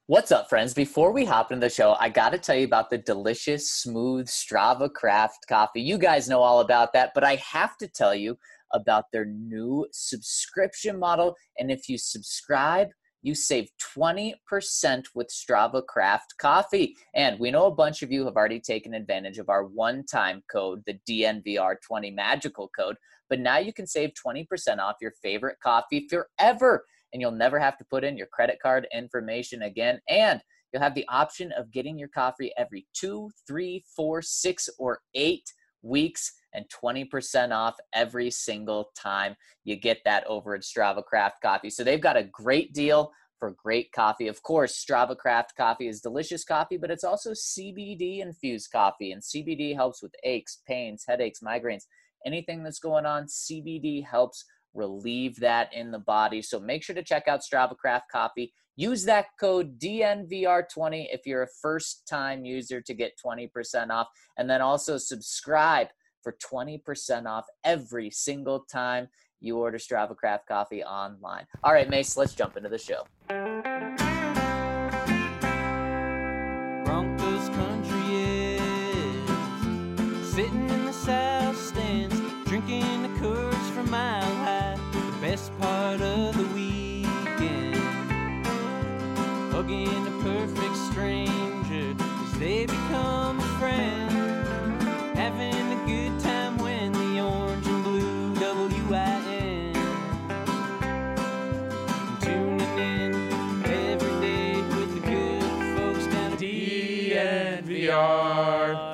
What's up, friends? Before we hop into the show, I got to tell you about the delicious, smooth Strava Craft coffee. You guys know all about that, but I have to tell you about their new subscription model. And if you subscribe, you save 20% with Strava Craft coffee. And we know a bunch of you have already taken advantage of our one-time code, the DNVR20 magical code, but now you can save 20% off your favorite coffee forever, and you'll never have to put in your credit card information again. And you'll have the option of getting your coffee every 2, 3, 4, 6, or 8 weeks and 20% off every single time you get that over at Strava Craft Coffee. So they've got a great deal for great coffee. Of course, Strava Craft Coffee is delicious coffee, but it's also CBD infused coffee. And CBD helps with aches, pains, headaches, migraines, anything that's going on. CBD helps relieve that in the body. So make sure to check out Strava Craft Coffee. Use that code DNVR20 if you're a first-time user to get 20% off. And then also subscribe for 20% off every single time you order Strava Craft Coffee online. All right, Mace, let's jump into the show. Broncos country is sitting in the south stands, drinking the Coors from Mile High. The best part of the weekend, hugging a perfect stranger as they become a friend, having a good time when the orange and blue WIN, tuning in every day with the good folks down at DNVR.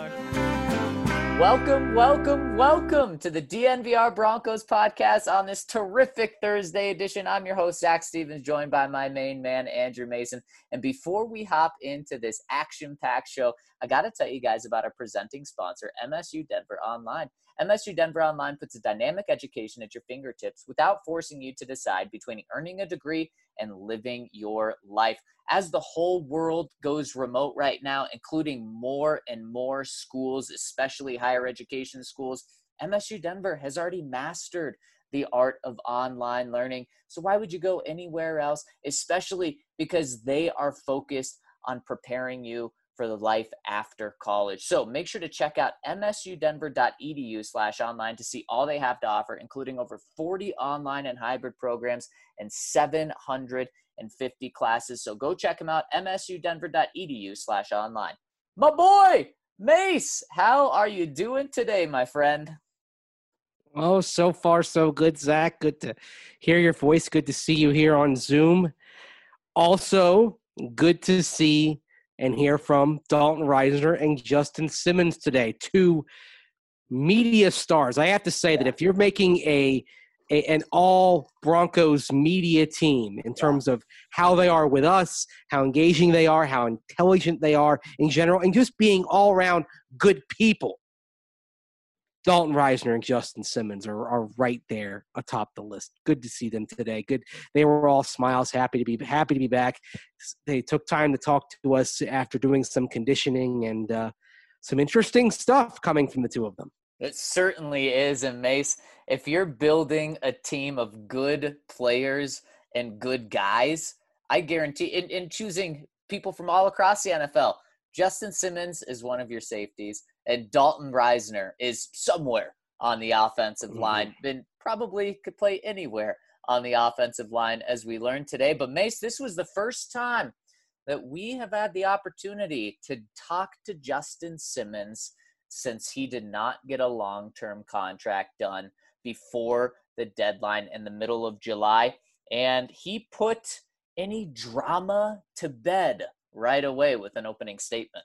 Welcome to the DNVR Broncos podcast on this terrific Thursday edition. I'm your host, Zach Stevens, joined by my main man, Andrew Mason. And before we hop into this action-packed show, I got to tell you guys about our presenting sponsor, MSU Denver Online. MSU Denver Online puts a dynamic education at your fingertips without forcing you to decide between earning a degree and living your life. As the whole world goes remote right now, including more and more schools, especially higher education schools, MSU Denver has already mastered the art of online learning. So why would you go anywhere else, especially because they are focused on preparing you for the life after college. So make sure to check out msudenver.edu/online to see all they have to offer, including over 40 online and hybrid programs and 750 classes. So go check them out, msudenver.edu/online. My boy, Mace, how are you doing today, my friend? Oh, so far so good, Zach. Good to hear your voice. Good to see you here on Zoom. Also, good to see and hear from Dalton Risner and Justin Simmons today, two media stars. I have to say that if you're making an all Broncos media team in terms of how they are with us, how engaging they are, how intelligent they are in general, and just being all around good people, Dalton Risner and Justin Simmons are right there atop the list. Good to see them today. Good. They were all smiles, happy to be back. They took time to talk to us after doing some conditioning and some interesting stuff coming from the two of them. It certainly is. And Mace, if you're building a team of good players and good guys, I guarantee in choosing people from all across the NFL, Justin Simmons is one of your safeties, and Dalton Risner is somewhere on the offensive line, and probably could play anywhere on the offensive line, as we learned today. But Mace, this was the first time that we have had the opportunity to talk to Justin Simmons since he did not get a long-term contract done before the deadline in the middle of July. And he put any drama to bed right away with an opening statement.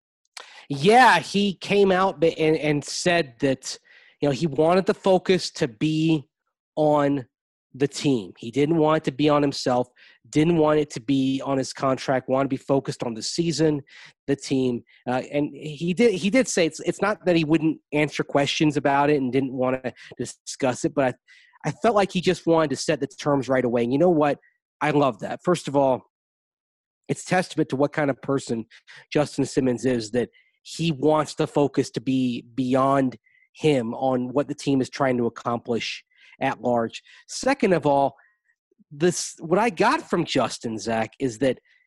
Yeah, he came out and said that, he wanted the focus to be on the team. He didn't want it to be on himself, didn't want it to be on his contract, wanted to be focused on the season, the team. And he did say it's not that he wouldn't answer questions about it and didn't want to discuss it, but I felt like he just wanted to set the terms right away. And you know what? I love that. First of all, it's testament to what kind of person Justin Simmons is, that he wants the focus to be beyond him on what the team is trying to accomplish at large. Second of all, what I got from Justin, Zach, is that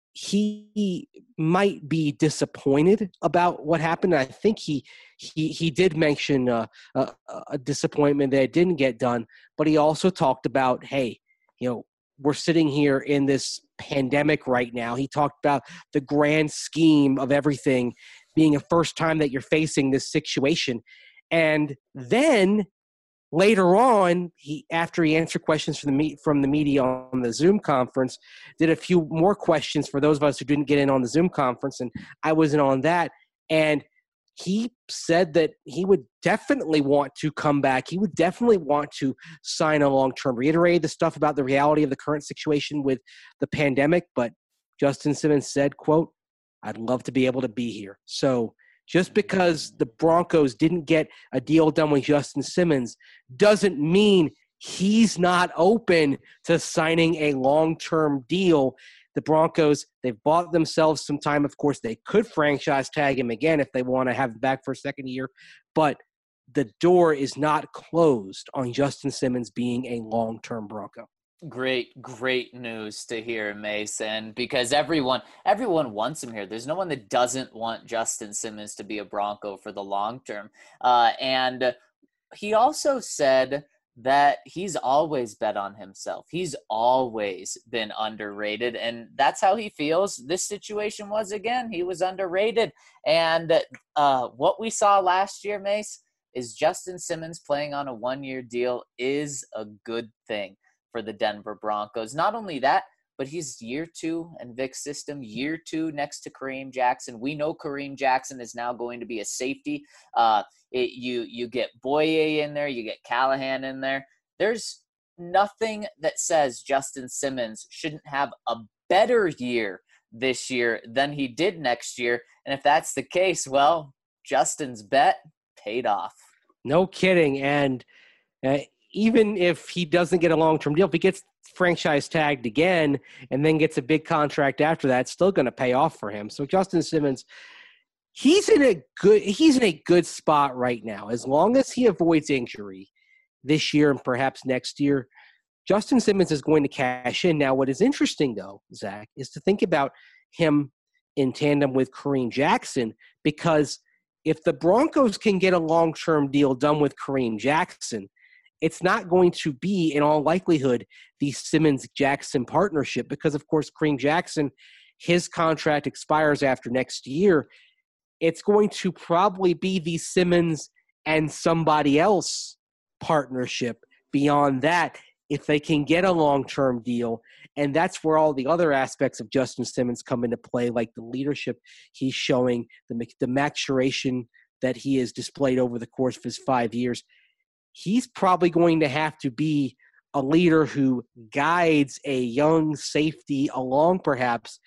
he might be disappointed about what happened. I think he did mention a disappointment that it didn't get done, but he also talked about, hey, we're sitting here in this pandemic right now. He talked about the grand scheme of everything being a first time that you're facing this situation. And then later on, after he answered questions from the media on the Zoom conference, did a few more questions for those of us who didn't get in on the Zoom conference, and I wasn't on that. And he said that he would definitely want to come back. He would definitely want to sign a long-term. Reiterated the stuff about the reality of the current situation with the pandemic, but Justin Simmons said, quote, "I'd love to be able to be here." So just because the Broncos didn't get a deal done with Justin Simmons doesn't mean he's not open to signing a long-term deal. The Broncos, they've bought themselves some time. Of course, they could franchise tag him again if they want to have him back for a second year, but the door is not closed on Justin Simmons being a long-term Bronco. Great news to hear, Mason, because everyone wants him here. There's no one that doesn't want Justin Simmons to be a Bronco for the long term. And he also said that he's always bet on himself. He's always been underrated, and that's how he feels. This situation was, again, he was underrated. And what we saw last year, Mace, is Justin Simmons playing on a one-year deal is a good thing for the Denver Broncos. Not only that, but he's year 2 in Vic's system, year 2 next to Kareem Jackson. We know Kareem Jackson is now going to be a safety. You get Boye in there, you get Callahan in there. There's nothing that says Justin Simmons shouldn't have a better year this year than he did next year. And if that's the case, well, Justin's bet paid off. No kidding. And even if he doesn't get a long-term deal, if he gets franchise tagged again and then gets a big contract after that, it's still going to pay off for him. So Justin Simmons, he's in a good spot right now. As long as he avoids injury this year and perhaps next year, Justin Simmons is going to cash in. Now, what is interesting, though, Zach, is to think about him in tandem with Kareem Jackson, because if the Broncos can get a long-term deal done with Kareem Jackson, it's not going to be, in all likelihood, the Simmons-Jackson partnership because, of course, Kareem Jackson, his contract expires after next year. It's going to probably be the Simmons and somebody else partnership beyond that if they can get a long-term deal. And that's where all the other aspects of Justin Simmons come into play, like the leadership he's showing, the maturation that he has displayed over the course of his 5 years. He's probably going to have to be a leader who guides a young safety along perhaps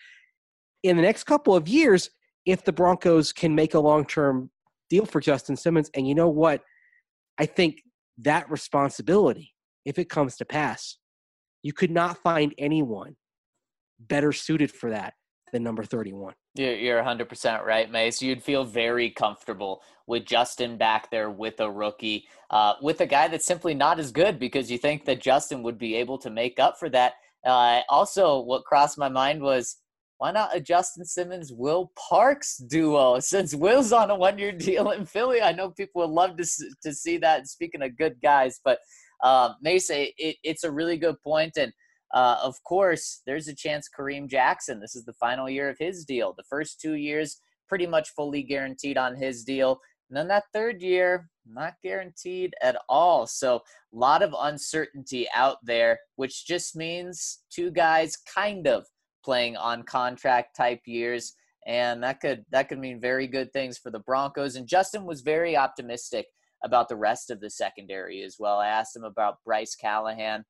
in the next couple of years if the Broncos can make a long-term deal for Justin Simmons. And you know what? I think that responsibility, if it comes to pass, you could not find anyone better suited for that than number 31. You're 100% right, Mace. You'd feel very comfortable with Justin back there with a rookie, with a guy that's simply not as good, because you think that Justin would be able to make up for that. Also, what crossed my mind was, why not a Justin Simmons, Will Parks duo? Since Will's on a one-year deal in Philly, I know people would love to see that. Speaking of good guys, but Mace, it's a really good point. And of course, there's a chance Kareem Jackson, this is the final year of his deal. The first 2 years, pretty much fully guaranteed on his deal. And then that third year, not guaranteed at all. So a lot of uncertainty out there, which just means two guys kind of playing on contract type years. And that could mean very good things for the Broncos. And Justin was very optimistic about the rest of the secondary as well. I asked him about Bryce Callahan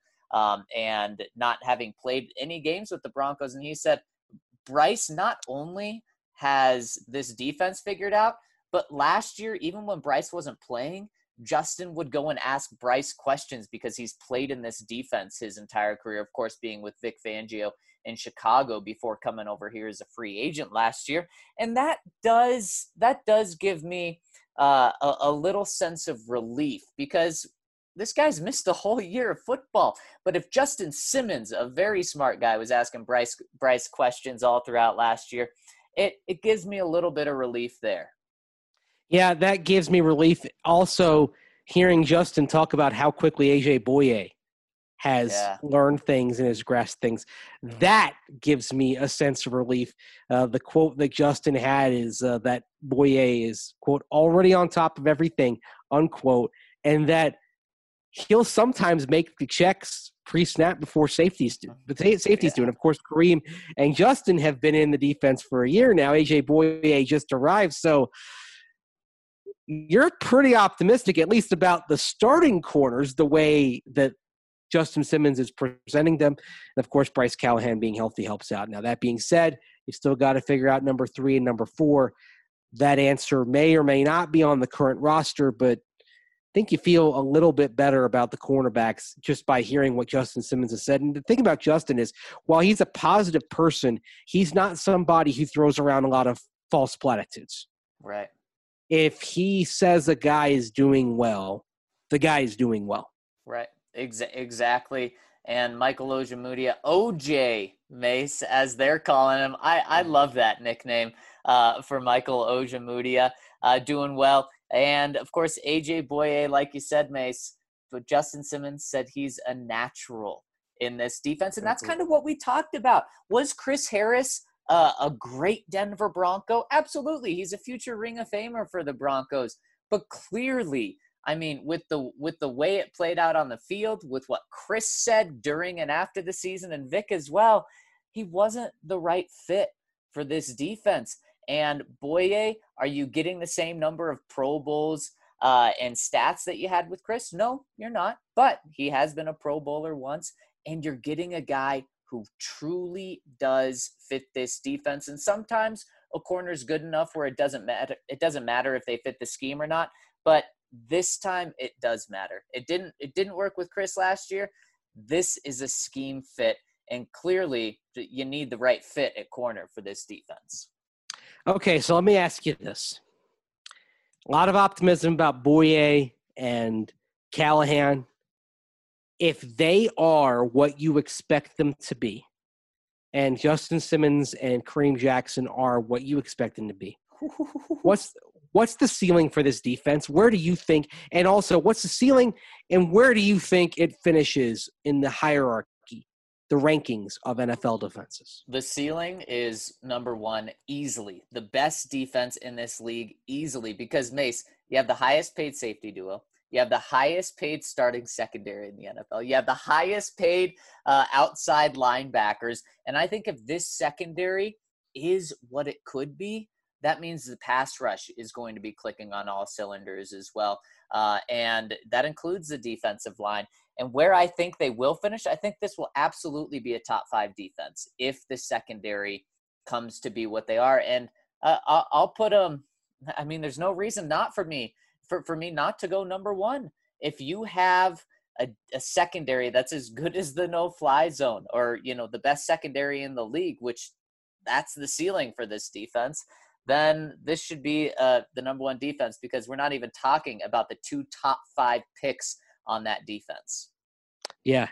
and not having played any games with the Broncos. And he said, Bryce not only has this defense figured out, but last year, even when Bryce wasn't playing, Justin would go and ask Bryce questions because he's played in this defense his entire career, of course, being with Vic Fangio in Chicago before coming over here as a free agent last year. And that does give me a little sense of relief, because this guy's missed a whole year of football. But if Justin Simmons, a very smart guy, was asking Bryce questions all throughout last year, it gives me a little bit of relief there. Yeah, that gives me relief. Also, hearing Justin talk about how quickly AJ Boye has learned things and has grasped things, that gives me a sense of relief. The quote that Justin had is that Boye is, quote, already on top of everything, unquote, and that he'll sometimes make the checks pre-snap before safeties do. But safeties do. And, of course, Kareem and Justin have been in the defense for a year now. AJ Boye just arrived. So you're pretty optimistic, at least about the starting corners, the way that Justin Simmons is presenting them. And, of course, Bryce Callahan being healthy helps out. Now, that being said, you still got to figure out number 3 and number 4. That answer may or may not be on the current roster, but I think you feel a little bit better about the cornerbacks just by hearing what Justin Simmons has said. And the thing about Justin is, while he's a positive person, he's not somebody who throws around a lot of false platitudes. Right. If he says a guy is doing well, the guy is doing well. Right. Exactly. And Michael Ojemudia, OJ Mace, as they're calling him. I love that nickname for Michael Ojemudia, doing well. And, of course, AJ Boye, like you said, Mace, but Justin Simmons said he's a natural in this defense. And that's kind of what we talked about. Was Chris Harris a great Denver Bronco? Absolutely. He's a future Ring of Famer for the Broncos. But clearly, I mean, with the way it played out on the field, with what Chris said during and after the season, and Vic as well, he wasn't the right fit for this defense. And Boye, are you getting the same number of Pro Bowls and stats that you had with Chris? No, you're not. But he has been a Pro Bowler once, and you're getting a guy who truly does fit this defense. And sometimes a corner is good enough where it doesn't matter. It doesn't matter if they fit the scheme or not. But this time it does matter. It didn't work with Chris last year. This is a scheme fit, and clearly you need the right fit at corner for this defense. Okay, so let me ask you this. A lot of optimism about Boye and Callahan. If they are what you expect them to be, and Justin Simmons and Kareem Jackson are what you expect them to be, what's the ceiling for this defense? Where do you think, and also what's the ceiling, and where do you think it finishes in the hierarchy, the rankings of NFL defenses? The ceiling is number 1 easily. The best defense in this league easily, because, Mace, you have the highest paid safety duo. You have the highest paid starting secondary in the NFL. You have the highest paid outside linebackers. And I think if this secondary is what it could be, that means the pass rush is going to be clicking on all cylinders as well. And that includes the defensive line. And where I think they will finish, I think this will absolutely be a top 5 defense if the secondary comes to be what they are. And I'll put them, I mean, there's no reason not for me not to go number 1. If you have a secondary that's as good as the no-fly zone, or, the best secondary in the league, which that's the ceiling for this defense, then this should be the number 1 defense, because we're not even talking about the 2 top 5 picks on that defense. Yeah.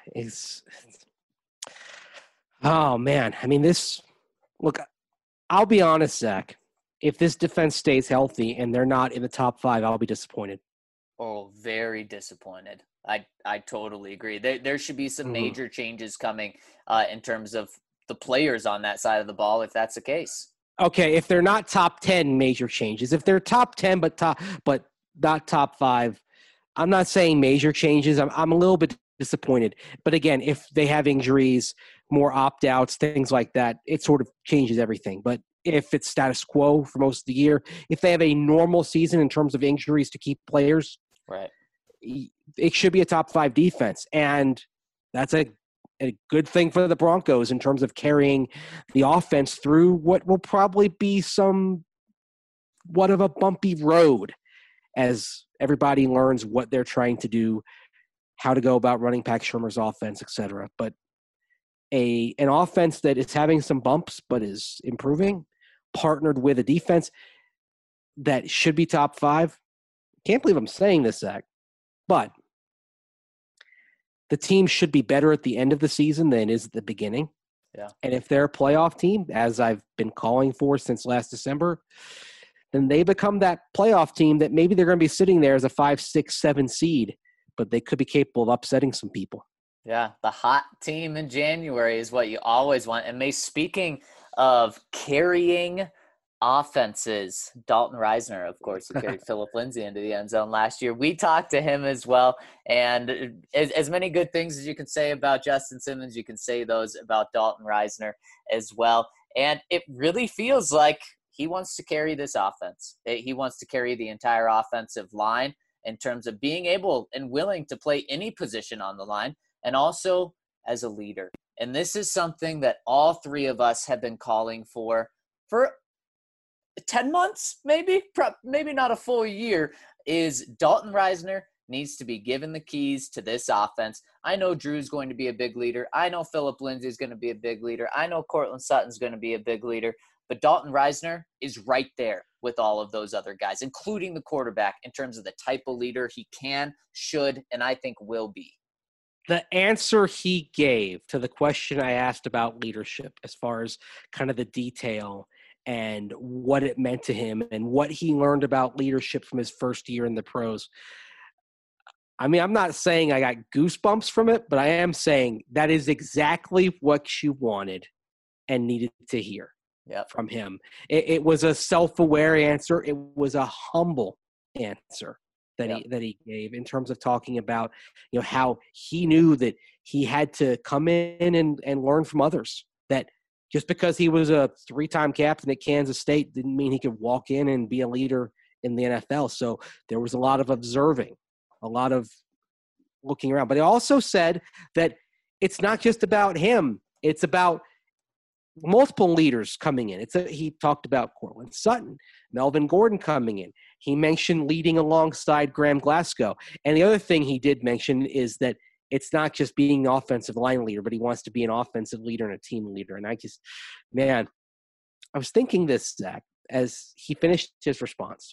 Oh, man. I mean, look, I'll be honest, Zach. If this defense stays healthy and they're not in the top 5, I'll be disappointed. Oh, very disappointed. I totally agree. There should be some major changes coming in terms of the players on that side of the ball, if that's the case. Okay, if they're not top 10, major changes. If they're top 10 but not top 5, I'm not saying major changes. I'm a little bit disappointed. But again, if they have injuries, more opt-outs, things like that, it sort of changes everything. But if it's status quo for most of the year, if they have a normal season in terms of injuries to keep players, right, it should be a top 5 defense. And that's a good thing for the Broncos in terms of carrying the offense through what will probably be somewhat of a bumpy road as everybody learns what they're trying to do, how to go about running Pat Shurmur's offense, etc. But an offense that is having some bumps but is improving, partnered with a defense that should be top 5. Can't believe I'm saying this, Zach, but the team should be better at the end of the season than it is at the beginning. Yeah. And if they're a playoff team, as I've been calling for since last December, then they become that playoff team that maybe they're going to be sitting there as a 5, 6, 7 seed, but they could be capable of upsetting some people. Yeah, the hot team in January is what you always want. And Mace, speaking of carrying offenses, Dalton Reisner, of course, who carried Philip Lindsay into the end zone last year. We talked to him as well. And as many good things as you can say about Justin Simmons, you can say those about Dalton Reisner as well. And it really feels like he wants to carry this offense. He wants to carry the entire offensive line in terms of being able and willing to play any position on the line, and also as a leader. And this is something that all three of us have been calling for 10 months, maybe not a full year, is Dalton Reisner needs to be given the keys to this offense. I know Drew's going to be a big leader. I know Philip Lindsay is going to be a big leader. I know Cortland Sutton's going to be a big leader. But Dalton Reisner is right there with all of those other guys, including the quarterback, in terms of the type of leader he can, should, and I think will be. The answer he gave to the question I asked about leadership, as far as kind of the detail and what it meant to him and what he learned about leadership from his first year in the pros. I mean, I'm not saying I got goosebumps from it, but I am saying that is exactly what you wanted and needed to hear from him. It was a self-aware answer. It was a humble answer that he gave, in terms of talking about, how he knew that he had to come in and learn from others. That just because he was a 3-time captain at Kansas State didn't mean he could walk in and be a leader in the NFL. So there was a lot of observing, a lot of looking around. But he also said that it's not just about him. It's about multiple leaders coming in. He talked about Cortland Sutton, Melvin Gordon coming in. He mentioned leading alongside Graham Glasgow. And the other thing he did mention is that it's not just being an offensive line leader, but he wants to be an offensive leader and a team leader. And I was thinking this, Zach, as he finished his response.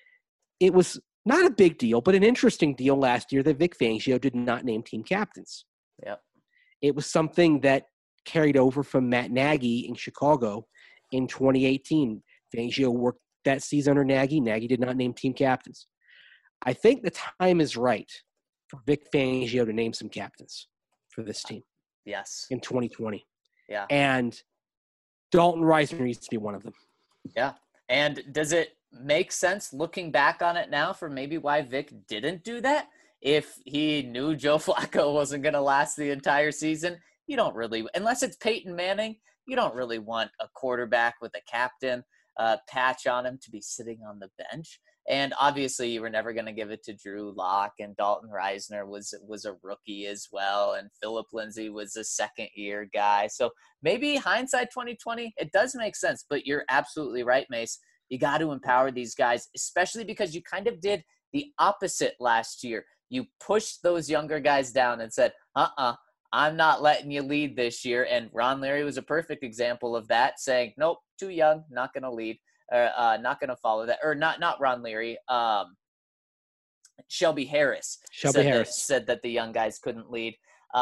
It was not a big deal, but an interesting deal last year that Vic Fangio did not name team captains. Yep. It was something that carried over from Matt Nagy in Chicago in 2018. Fangio worked that season under Nagy. Nagy did not name team captains. I think the time is right for Vic Fangio to name some captains for this team. Yes. In 2020. Yeah. And Dalton Reisner needs to be one of them. Yeah. And does it make sense looking back on it now for maybe why Vic didn't do that? If he knew Joe Flacco wasn't going to last the entire season, you don't really, unless it's Peyton Manning, you don't really want a quarterback with a captain patch on him to be sitting on the bench. And obviously you were never going to give it to Drew Lock, and Dalton Reisner was a rookie as well. And Philip Lindsay was a second-year guy. So maybe hindsight 2020, it does make sense. But you're absolutely right, Mace. You got to empower these guys, especially because you kind of did the opposite last year. You pushed those younger guys down and said, I'm not letting you lead this year. And Ron Leary was a perfect example of that, saying, nope, too young, not going to lead, or not going to follow that. Or not Ron Leary, Shelby Harris. Said that the young guys couldn't lead.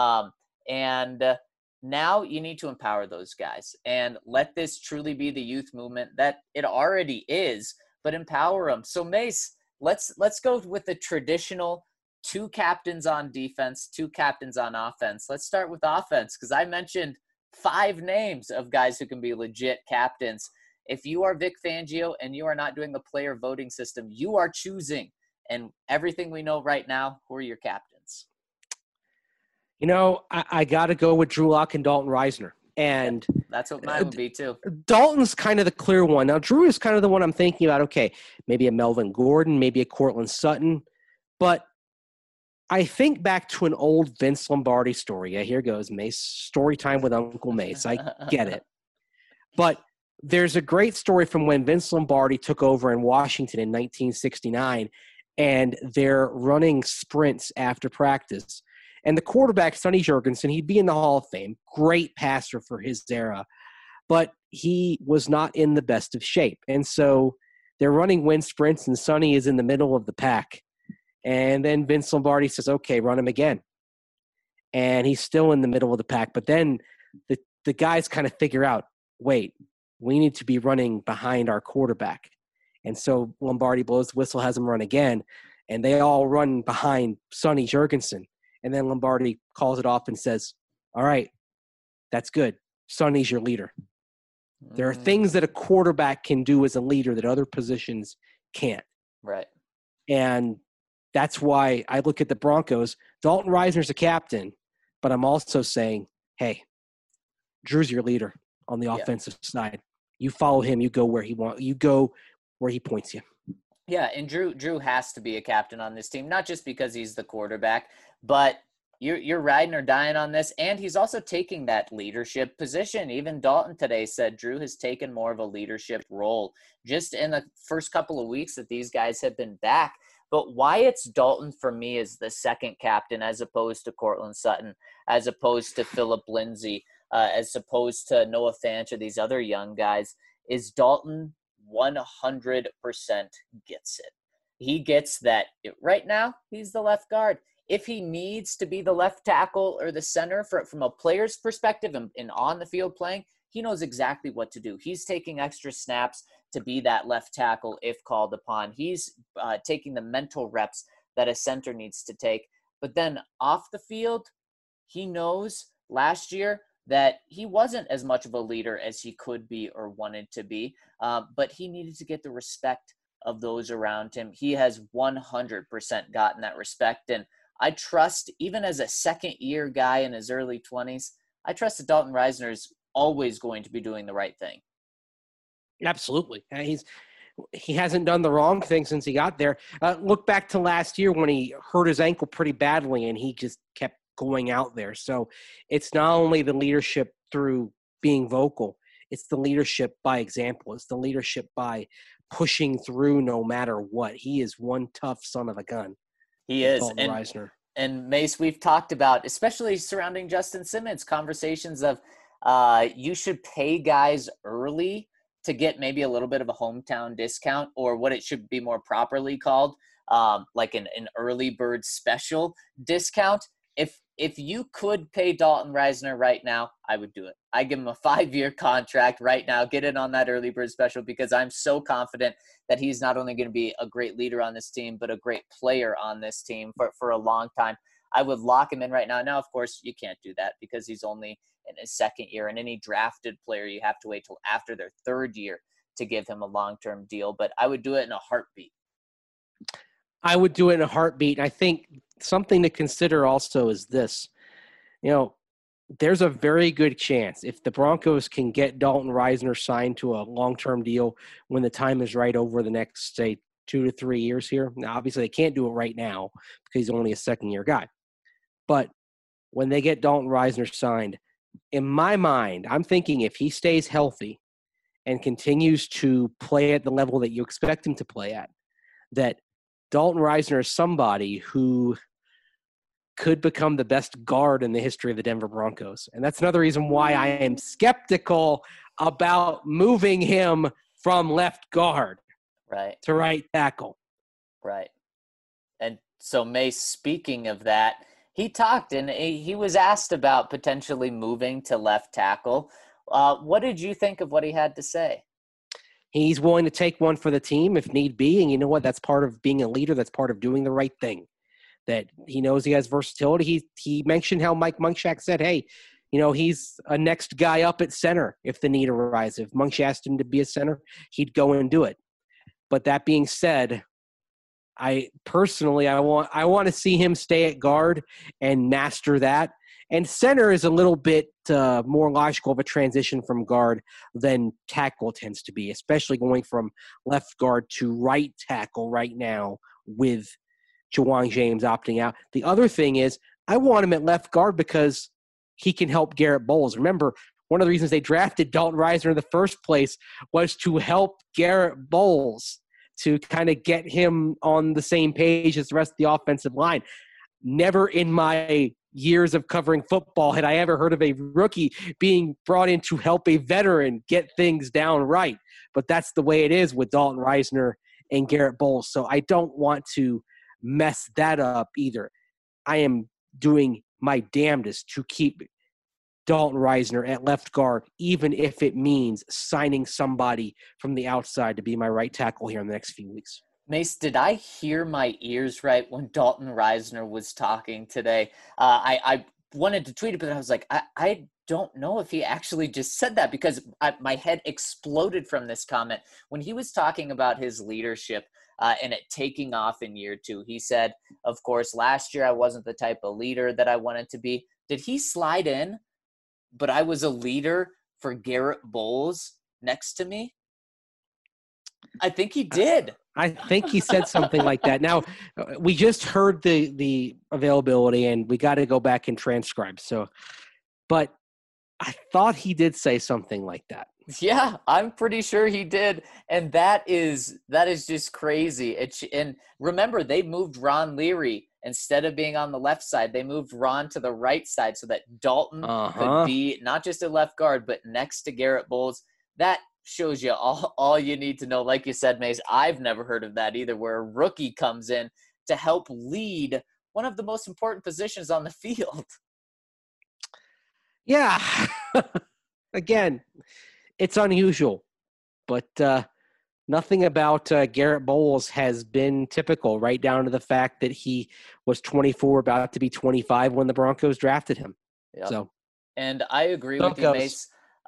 Now you need to empower those guys and let this truly be the youth movement that it already is, but empower them. So Mace, let's go with the traditional 2 captains on defense, 2 captains on offense. Let's start with offense, because I mentioned 5 names of guys who can be legit captains. If you are Vic Fangio and you are not doing the player voting system, you are choosing. And everything we know right now, who are your captains? I got to go with Drew Lock and Dalton Reisner. And that's what mine would be too. Dalton's kind of the clear one. Now, Drew is kind of the one I'm thinking about. Okay, maybe a Melvin Gordon, maybe a Cortland Sutton. But I think back to an old Vince Lombardi story. Yeah, here goes, Mace. Story time with Uncle Mace. I get it. But there's a great story from when Vince Lombardi took over in Washington in 1969, and they're running sprints after practice. And the quarterback, Sonny Jurgensen, he'd be in the Hall of Fame. Great passer for his era. But he was not in the best of shape. And so they're running wind sprints, and Sonny is in the middle of the pack. And then Vince Lombardi says, okay, run him again. and he's still in the middle of the pack. But then the guys kind of figure out, wait, we need to be running behind our quarterback. And so Lombardi blows the whistle, has him run again, and they all run behind Sonny Jurgensen. And then Lombardi calls it off and says, all right, that's good. Sonny's your leader. There are things that a quarterback can do as a leader that other positions can't. Right. And that's why I look at the Broncos. Dalton Reisner's a captain, but I'm also saying, hey, Drew's your leader on the offensive side. You follow him. You go where he wants. You go where he points you. Yeah, and Drew has to be a captain on this team, not just because he's the quarterback, but you're riding or dying on this, and he's also taking that leadership position. Even Dalton today said Drew has taken more of a leadership role just in the first couple of weeks that these guys have been back. But why it's Dalton for me is the second captain as opposed to Cortland Sutton, as opposed to Phillip Lindsay, as opposed to Noah Fant or these other young guys, is Dalton 100% gets it. He gets that right now he's the left guard. If he needs to be the left tackle or the center from a player's perspective and on the field playing, he knows exactly what to do. He's taking extra snaps to be that left tackle if called upon. He's taking the mental reps that a center needs to take. But then off the field, he knows last year that he wasn't as much of a leader as he could be or wanted to be, but he needed to get the respect of those around him. He has 100% gotten that respect, and I trust, even as a second-year guy in his early 20s, I trust that Dalton Reisner is always going to be doing the right thing. Absolutely. He hasn't done the wrong thing since he got there. Look back to last year when he hurt his ankle pretty badly, and he just kept going out there. So it's not only the leadership through being vocal, it's the leadership by example. It's the leadership by pushing through no matter what. He is one tough son of a gun. He is. Dalton Reisner. And Mace, we've talked about, especially surrounding Justin Simmons, conversations of you should pay guys early to get maybe a little bit of a hometown discount, or what it should be more properly called, like an early bird special discount. If you could pay Dalton Reisner right now, I would do it. I give him a 5-year contract right now, get it on that early bird special, because I'm so confident that he's not only going to be a great leader on this team, but a great player on this team for a long time. I would lock him in right now. Now, of course, you can't do that because he's only in his second year, and any drafted player, you have to wait till after their third year to give him a long-term deal. But I would do it in a heartbeat. I would do it in a heartbeat. I think something to consider also is this. There's a very good chance if the Broncos can get Dalton Reisner signed to a long-term deal when the time is right over the next, say, 2 to 3 years here. Now, obviously, they can't do it right now because he's only a second-year guy. But when they get Dalton Reisner signed, in my mind, I'm thinking if he stays healthy and continues to play at the level that you expect him to play at, that Dalton Reisner is somebody who could become the best guard in the history of the Denver Broncos. And that's another reason why I am skeptical about moving him from left guard to right tackle. Right. And so, Mace, speaking of that, he talked and he was asked about potentially moving to left tackle. What did you think of what he had to say? He's willing to take one for the team if need be. And you know what? That's part of being a leader. That's part of doing the right thing. That he knows he has versatility. He mentioned how Mike Munchak said, hey, he's a next guy up at center if the need arises. If Munchak asked him to be a center, he'd go and do it. But that being said, I want to see him stay at guard and master that. And center is a little bit more logical of a transition from guard than tackle tends to be, especially going from left guard to right tackle right now with Ja'Wuan James opting out. The other thing is I want him at left guard because he can help Garrett Bowles. Remember, one of the reasons they drafted Dalton Reisner in the first place was to help Garrett Bowles, to kind of get him on the same page as the rest of the offensive line. Never in my years of covering football had I ever heard of a rookie being brought in to help a veteran get things down right. But that's the way it is with Dalton Reisner and Garrett Bowles. So I don't want to mess that up either. I am doing my damnedest to keep Dalton Risner at left guard, even if it means signing somebody from the outside to be my right tackle here in the next few weeks. Mace, did I hear my ears right when Dalton Risner was talking today? I wanted to tweet it, but I was like, I don't know if he actually just said that, because my head exploded from this comment. When he was talking about his leadership and it taking off in year 2, he said, of course, last year I wasn't the type of leader that I wanted to be. Did he slide in, but I was a leader for Garrett Bowles next to me? I think he did. I think he said something like that. Now, we just heard the availability, and we got to go back and transcribe. So, but I thought he did say something like that. Yeah, I'm pretty sure he did, and that is just crazy. And remember, they moved Ron Leary instead of being on the left side. They moved Ron to the right side so that Dalton could be not just a left guard, but next to Garrett Bowles. That shows you all you need to know. Like you said, Mace, I've never heard of that either, where a rookie comes in to help lead one of the most important positions on the field. Yeah. Again, it's unusual, but nothing about Garrett Bowles has been typical, right down to the fact that he was 24, about to be 25 when the Broncos drafted him. Yep. So, and I agree with you, Mace,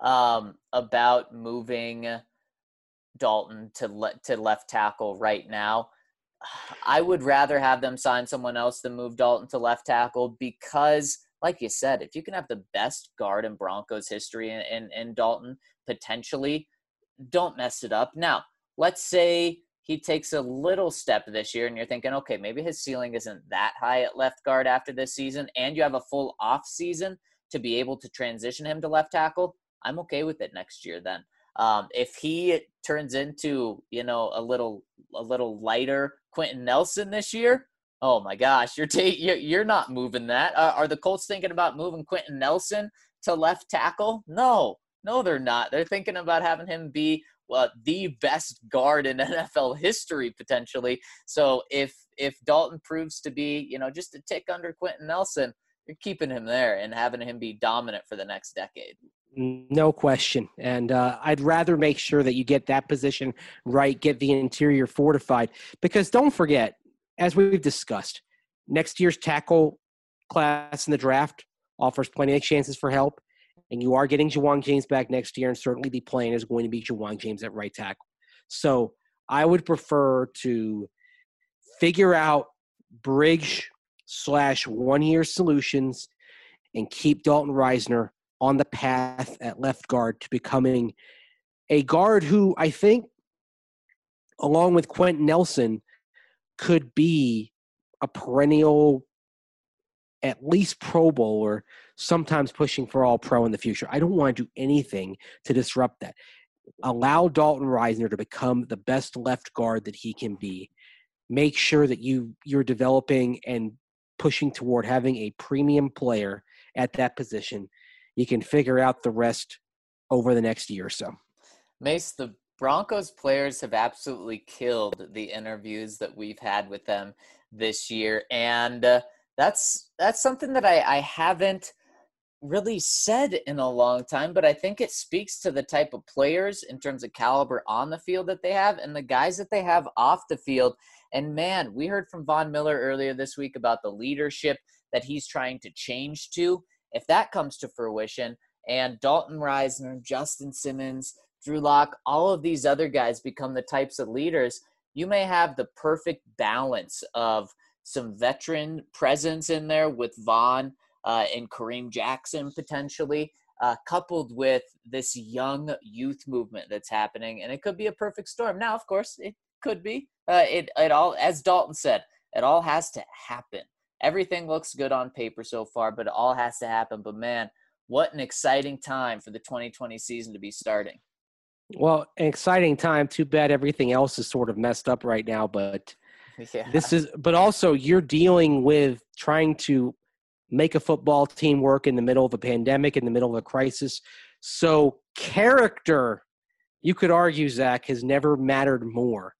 about moving Dalton to left tackle right now. I would rather have them sign someone else than move Dalton to left tackle, because, like you said, if you can have the best guard in Broncos history in Dalton, potentially, don't mess it up. Now, let's say he takes a little step this year and you're thinking, okay, maybe his ceiling isn't that high at left guard after this season, and you have a full off season to be able to transition him to left tackle. I'm okay with it next year then. If he turns into, a little lighter Quentin Nelson this year, oh my gosh, you're not moving that. Are the Colts thinking about moving Quentin Nelson to left tackle? No, they're not. They're thinking about having him be the best guard in NFL history potentially. So if Dalton proves to be, just a tick under Quentin Nelson, you're keeping him there and having him be dominant for the next decade. No question. And I'd rather make sure that you get that position right, get the interior fortified, because don't forget, as we've discussed, next year's tackle class in the draft offers plenty of chances for help, and you are getting Ja'Wuan James back next year, and certainly the plan is going to be Ja'Wuan James at right tackle. So I would prefer to figure out bridge/1-year solutions and keep Dalton Risner on the path at left guard to becoming a guard who I think, along with Quentin Nelson, could be a perennial, at least Pro Bowler, sometimes pushing for all pro in the future. I don't want to do anything to disrupt that. Allow Dalton Risner to become the best left guard that he can be. Make sure that you're developing and pushing toward having a premium player at that position. You can figure out the rest over the next year or so. Mace, the Broncos players have absolutely killed the interviews that we've had with them this year. And that's something that I haven't really said in a long time, but I think it speaks to the type of players in terms of caliber on the field that they have and the guys that they have off the field. And man, we heard from Von Miller earlier this week about the leadership that he's trying to change to. If that comes to fruition, and Dalton Risner, Justin Simmons, Drew Lock, all of these other guys become the types of leaders, you may have the perfect balance of some veteran presence in there with Von and Kareem Jackson potentially, coupled with this young youth movement that's happening. And it could be a perfect storm. Now, of course, it could be. It all, as Dalton said, it all has to happen. Everything looks good on paper so far, but it all has to happen. But, man, what an exciting time for the 2020 season to be starting. Well, an exciting time. Too bad everything else is sort of messed up right now. But yeah. But also you're dealing with trying to make a football team work in the middle of a pandemic, in the middle of a crisis. So character, you could argue, Zach, has never mattered more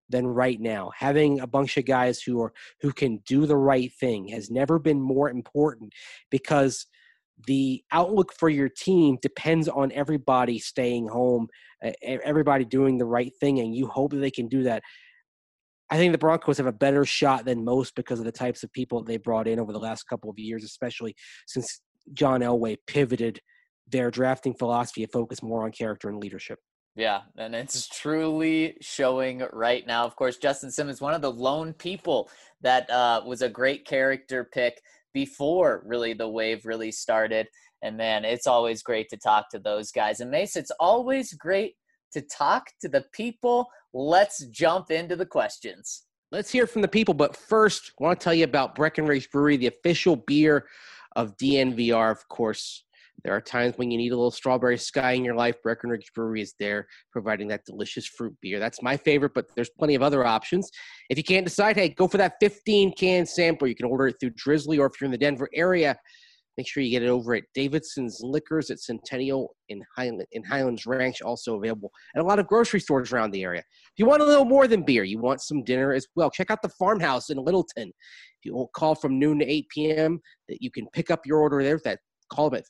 than right now. Having a bunch of guys who can do the right thing has never been more important, because the outlook for your team depends on everybody staying home, everybody doing the right thing, and you hope that they can do that. I think the Broncos have a better shot than most because of the types of people they brought in over the last couple of years, especially since John Elway pivoted their drafting philosophy to focus more on character and leadership. Yeah, and it's truly showing right now. Of course, Justin Simmons, one of the lone people that was a great character pick before really the wave really started. And man, it's always great to talk to those guys. And Mace, it's always great to talk to the people. Let's jump into the questions. Let's hear from the people. But first, I want to tell you about Breckenridge Brewery, the official beer of DNVR. Of course, there are times when you need a little strawberry sky in your life. Breckenridge Brewery is there providing that delicious fruit beer. That's my favorite, but there's plenty of other options. If you can't decide, hey, go for that 15-can sampler. You can order it through Drizzly, or if you're in the Denver area, make sure you get it over at Davidson's Liquors at Centennial in Highlands Ranch, also available at a lot of grocery stores around the area. If you want a little more than beer, you want some dinner as well, check out the Farmhouse in Littleton. If you will call from noon to 8 p.m., that you can pick up your order there. Call them at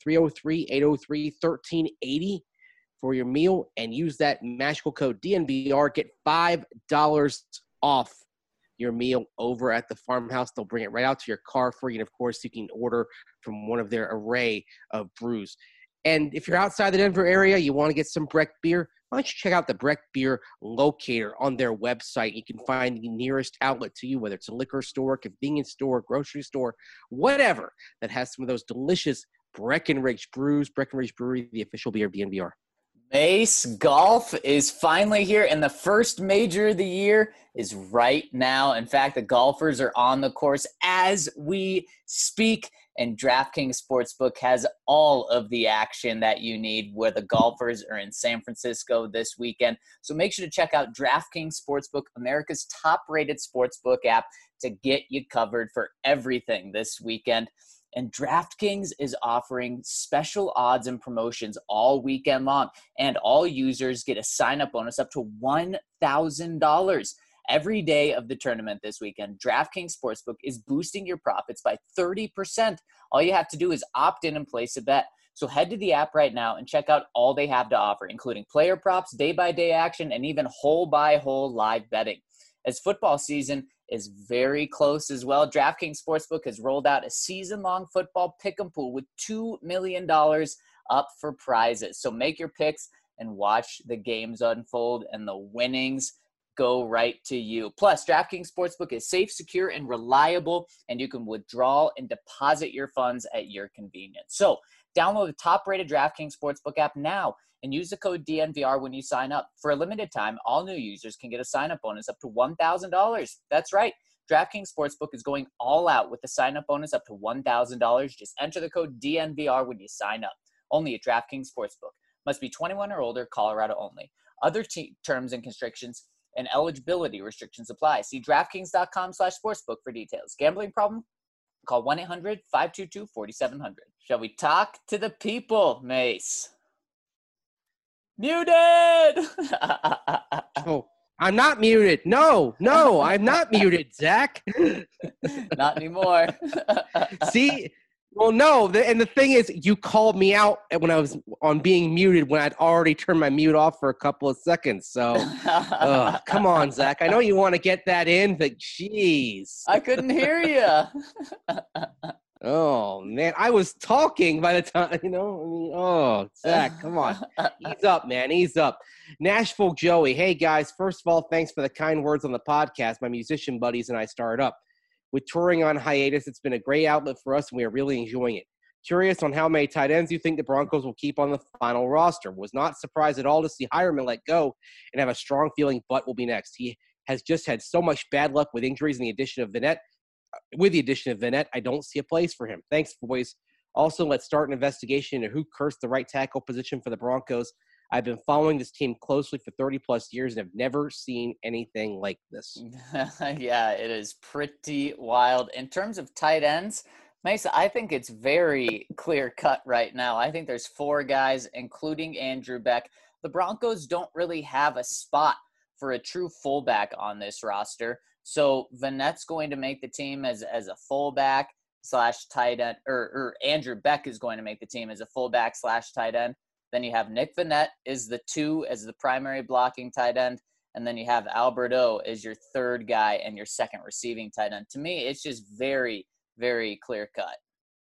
303-803-1380 for your meal, and use that magical code DNVR. Get $5 off your meal over at the Farmhouse. They'll bring it right out to your car for you. And, of course, you can order from one of their array of brews. And if you're outside the Denver area, you want to get some Breck beer, why don't you check out the Breck Beer Locator on their website. You can find the nearest outlet to you, whether it's a liquor store, convenience store, grocery store, whatever, that has some of those delicious Breckenridge brews. Breckenridge Brewery, the official beer of DNVR. Mace, golf is finally here, and the first major of the year is right now. In fact, the golfers are on the course as we speak, and DraftKings Sportsbook has all of the action that you need, where the golfers are in San Francisco this weekend. So make sure to check out DraftKings Sportsbook, America's top-rated sportsbook app, to get you covered for everything this weekend. And DraftKings is offering special odds and promotions all weekend long. And all users get a sign-up bonus up to $1,000 every day of the tournament this weekend. DraftKings Sportsbook is boosting your profits by 30%. All you have to do is opt in and place a bet. So head to the app right now and check out all they have to offer, including player props, day-by-day action, and even hole-by-hole live betting. As football season is very close as well, DraftKings Sportsbook has rolled out a season-long football pick'em pool with $2 million up for prizes. So make your picks and watch the games unfold, and the winnings go right to you. Plus, DraftKings Sportsbook is safe, secure, and reliable, and you can withdraw and deposit your funds at your convenience. So download the top-rated DraftKings Sportsbook app now and use the code DNVR when you sign up. For a limited time, all new users can get a sign-up bonus up to $1,000. That's right. DraftKings Sportsbook is going all out with the sign-up bonus up to $1,000. Just enter the code DNVR when you sign up. Only at DraftKings Sportsbook. Must be 21 or older, Colorado only. Other terms and constrictions and eligibility restrictions apply. See DraftKings.com/sportsbook for details. Gambling problem? Call 1-800-522-4700. Shall we talk to the people, Mace? Muted! Oh, I'm not muted. No, I'm not muted, Zach. Not anymore. See, well, no, and the thing is, you called me out when I was on being muted when I'd already turned my mute off for a couple of seconds. So, come on, Zach. I know you want to get that in, but jeez. I couldn't hear you. Oh, man. I was talking by the time, Zach, come on. Ease up, man. Ease up. Nashville Joey. Hey, guys. First of all, thanks for the kind words on the podcast. My musician buddies and I started up. With touring on hiatus, it's been a great outlet for us, and we are really enjoying it. Curious on how many tight ends you think the Broncos will keep on the final roster. Was not surprised at all to see Hireman let go and have a strong feeling Butt will be next. He has just had so much bad luck with injuries and the addition of Vinette. With the addition of Vinette, I don't see a place for him. Thanks, boys. Also, let's start an investigation into who cursed the right tackle position for the Broncos. I've been following this team closely for 30-plus years and have never seen anything like this. Yeah, it is pretty wild. In terms of tight ends, Mesa, I think it's very clear-cut right now. I think there's 4 guys, including Andrew Beck. The Broncos don't really have a spot for a true fullback on this roster. So Vanette's going to make the team as a fullback slash tight end, or Andrew Beck is going to make the team as a fullback slash tight end. Then you have Nick Vannett is the 2 as the primary blocking tight end. And then you have Alberto as your third guy and your second receiving tight end. To me, it's just very, very clear cut.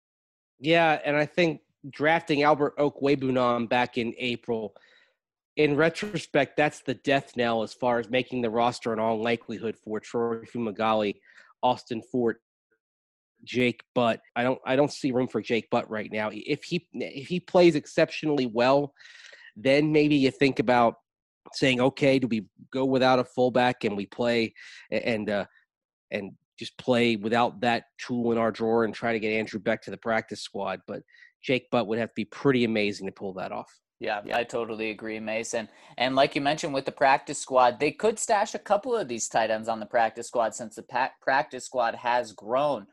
Yeah, and I think drafting Albert Okwebunam back in April, in retrospect, that's the death knell as far as making the roster in all likelihood for Troy Fumagalli, Austin Fort, Jake Butt. I don't see room for Jake Butt right now. If he plays exceptionally well, then maybe you think about saying, okay, do we go without a fullback and we play and just play without that tool in our drawer and try to get Andrew Beck to the practice squad? But Jake Butt would have to be pretty amazing to pull that off. Yeah, I totally agree, Mason. And like you mentioned with the practice squad, they could stash a couple of these tight ends on the practice squad since the practice squad has grown.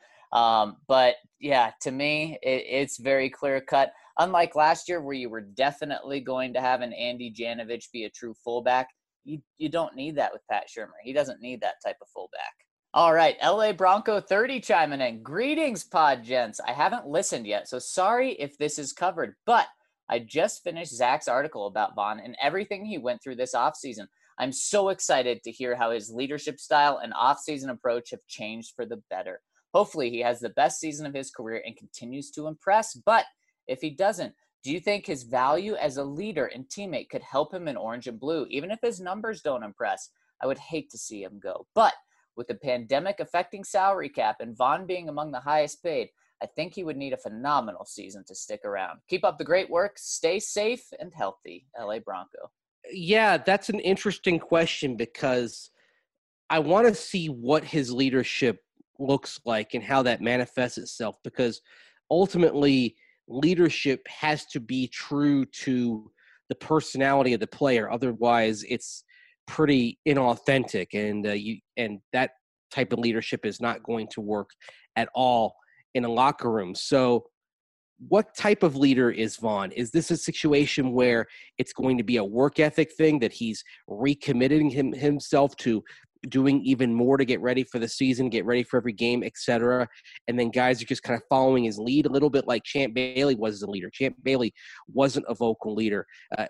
But yeah, to me, it's very clear cut. Unlike last year where you were definitely going to have an Andy Janovich be a true fullback, you don't need that with Pat Shurmur. He doesn't need that type of fullback. All right, LA Bronco 30 chiming in. Greetings, pod gents. I haven't listened yet, so sorry if this is covered, but I just finished Zach's article about Von and everything he went through this offseason. I'm so excited to hear how his leadership style and offseason approach have changed for the better. Hopefully he has the best season of his career and continues to impress, but if he doesn't, do you think his value as a leader and teammate could help him in orange and blue, even if his numbers don't impress? I would hate to see him go. But with the pandemic affecting salary cap and Von being among the highest paid, I think he would need a phenomenal season to stick around. Keep up the great work. Stay safe and healthy, LA Bronco. Yeah, that's an interesting question because I want to see what his leadership looks like and how that manifests itself, because ultimately leadership has to be true to the personality of the player. Otherwise, it's pretty inauthentic, and that type of leadership is not going to work at all in a locker room. So what type of leader is Von? Is this a situation where it's going to be a work ethic thing that he's recommitting himself to doing even more to get ready for the season, get ready for every game, etc.? And then guys are just kind of following his lead a little bit like Champ Bailey was as a leader. Champ Bailey wasn't a vocal leader.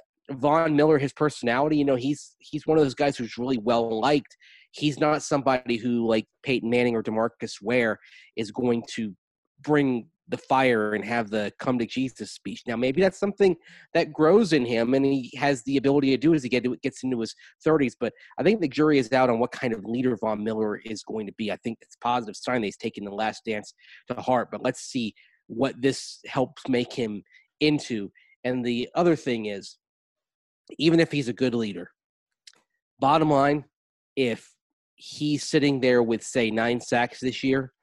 Von Miller, his personality, he's one of those guys who's really well liked. He's not somebody who, like Peyton Manning or DeMarcus Ware, is going to bring the fire and have the come to Jesus speech. Now, maybe that's something that grows in him and he has the ability to do as he gets into his 30s. But I think the jury is out on what kind of leader Von Miller is going to be. I think it's a positive sign that he's taken the Last Dance to heart. But let's see what this helps make him into. And the other thing is, even if he's a good leader, bottom line, if he's sitting there with, say, 9 sacks this year,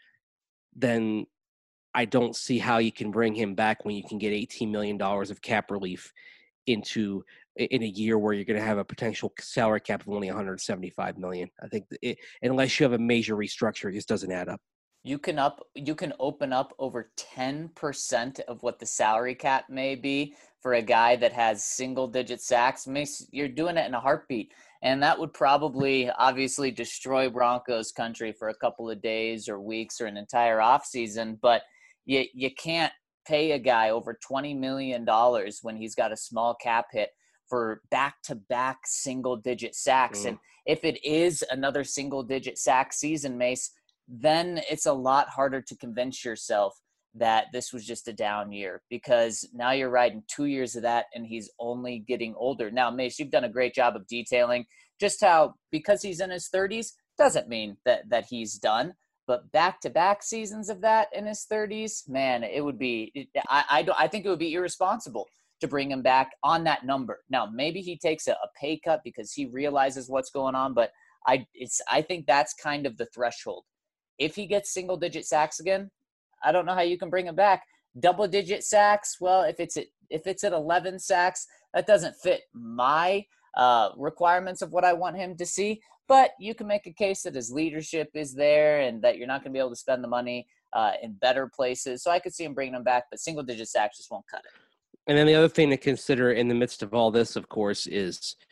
then I don't see how you can bring him back when you can get $18 million of cap relief in a year where you're going to have a potential salary cap of only $175 million. I think unless you have a major restructure, it just doesn't add up. You can open up over 10% of what the salary cap may be for a guy that has single-digit sacks. You're doing it in a heartbeat. And that would probably obviously destroy Broncos country for a couple of days or weeks or an entire offseason. But you can't pay a guy over $20 million when he's got a small cap hit for back-to-back single-digit sacks. And if it is another single-digit sack season, Mace, then it's a lot harder to convince yourself that this was just a down year, because now you're riding 2 years of that and he's only getting older. Now, Mace, you've done a great job of detailing just how, because he's in his 30s, doesn't mean that he's done. But back-to-back seasons of that in his 30s, man, it would be – I think it would be irresponsible to bring him back on that number. Now, maybe he takes a pay cut because he realizes what's going on, but I think that's kind of the threshold. If he gets single-digit sacks again, I don't know how you can bring him back. Double-digit sacks, well, if it's at 11 sacks, that doesn't fit my requirements of what I want him to see. But you can make a case that his leadership is there and that you're not going to be able to spend the money in better places. So I could see him bringing him back, but single-digit sacks just won't cut it. And then the other thing to consider in the midst of all this, of course, is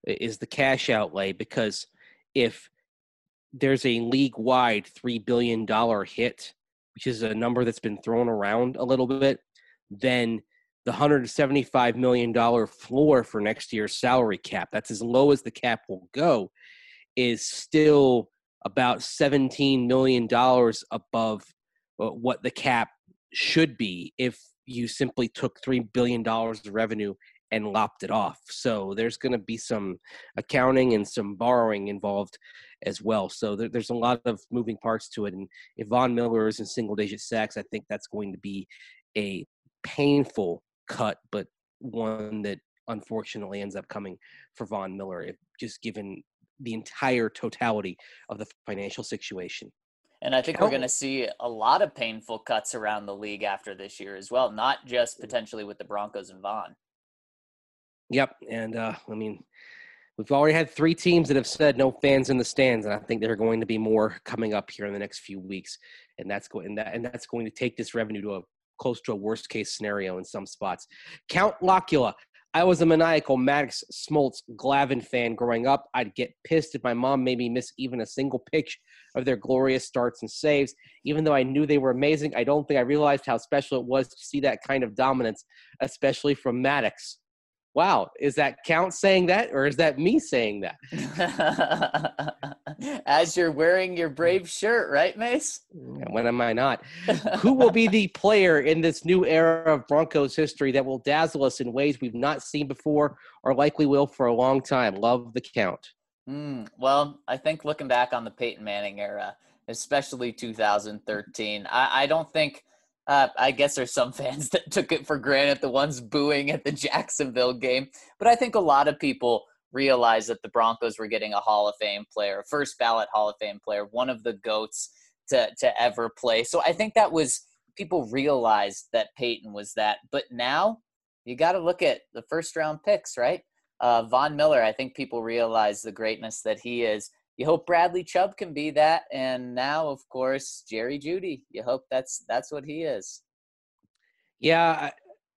is the cash outlay, because if there's a league-wide $3 billion hit, which is a number that's been thrown around a little bit, then the $175 million floor for next year's salary cap, that's as low as the cap will go, is still about $17 million above what the cap should be if you simply took $3 billion of revenue and lopped it off. So there's going to be some accounting and some borrowing involved as well. So there's a lot of moving parts to it. And if Von Miller is in single-digit sacks, I think that's going to be a painful cut, but one that unfortunately ends up coming for Von Miller, just given the entire totality of the financial situation. And I think we're going to see a lot of painful cuts around the league after this year as well, not just potentially with the Broncos and Von. Yep. And we've already had 3 teams that have said no fans in the stands, and I think there are going to be more coming up here in the next few weeks. And that's going to take this revenue to close to a worst case scenario in some spots. Count Locula. I was a maniacal Maddox, Smoltz, Glavin fan growing up. I'd get pissed if my mom made me miss even a single pitch of their glorious starts and saves. Even though I knew they were amazing, I don't think I realized how special it was to see that kind of dominance, especially from Maddox. Wow, is that Count saying that, or is that me saying that? As you're wearing your Brave shirt, right, Mace? When am I not? Who will be the player in this new era of Broncos history that will dazzle us in ways we've not seen before or likely will for a long time? Love the Count. Well, I think looking back on the Peyton Manning era, especially 2013, I don't think I guess there's some fans that took it for granted, the ones booing at the Jacksonville game. But I think a lot of people realized that the Broncos were getting a Hall of Fame player, a first ballot Hall of Fame player, one of the GOATs to ever play. So I think that was – people realized that Peyton was that. But now you got to look at the first-round picks, right? Von Miller, I think people realize the greatness that he is. You hope Bradley Chubb can be that, and now, of course, Jerry Jeudy. You hope that's what he is. Yeah,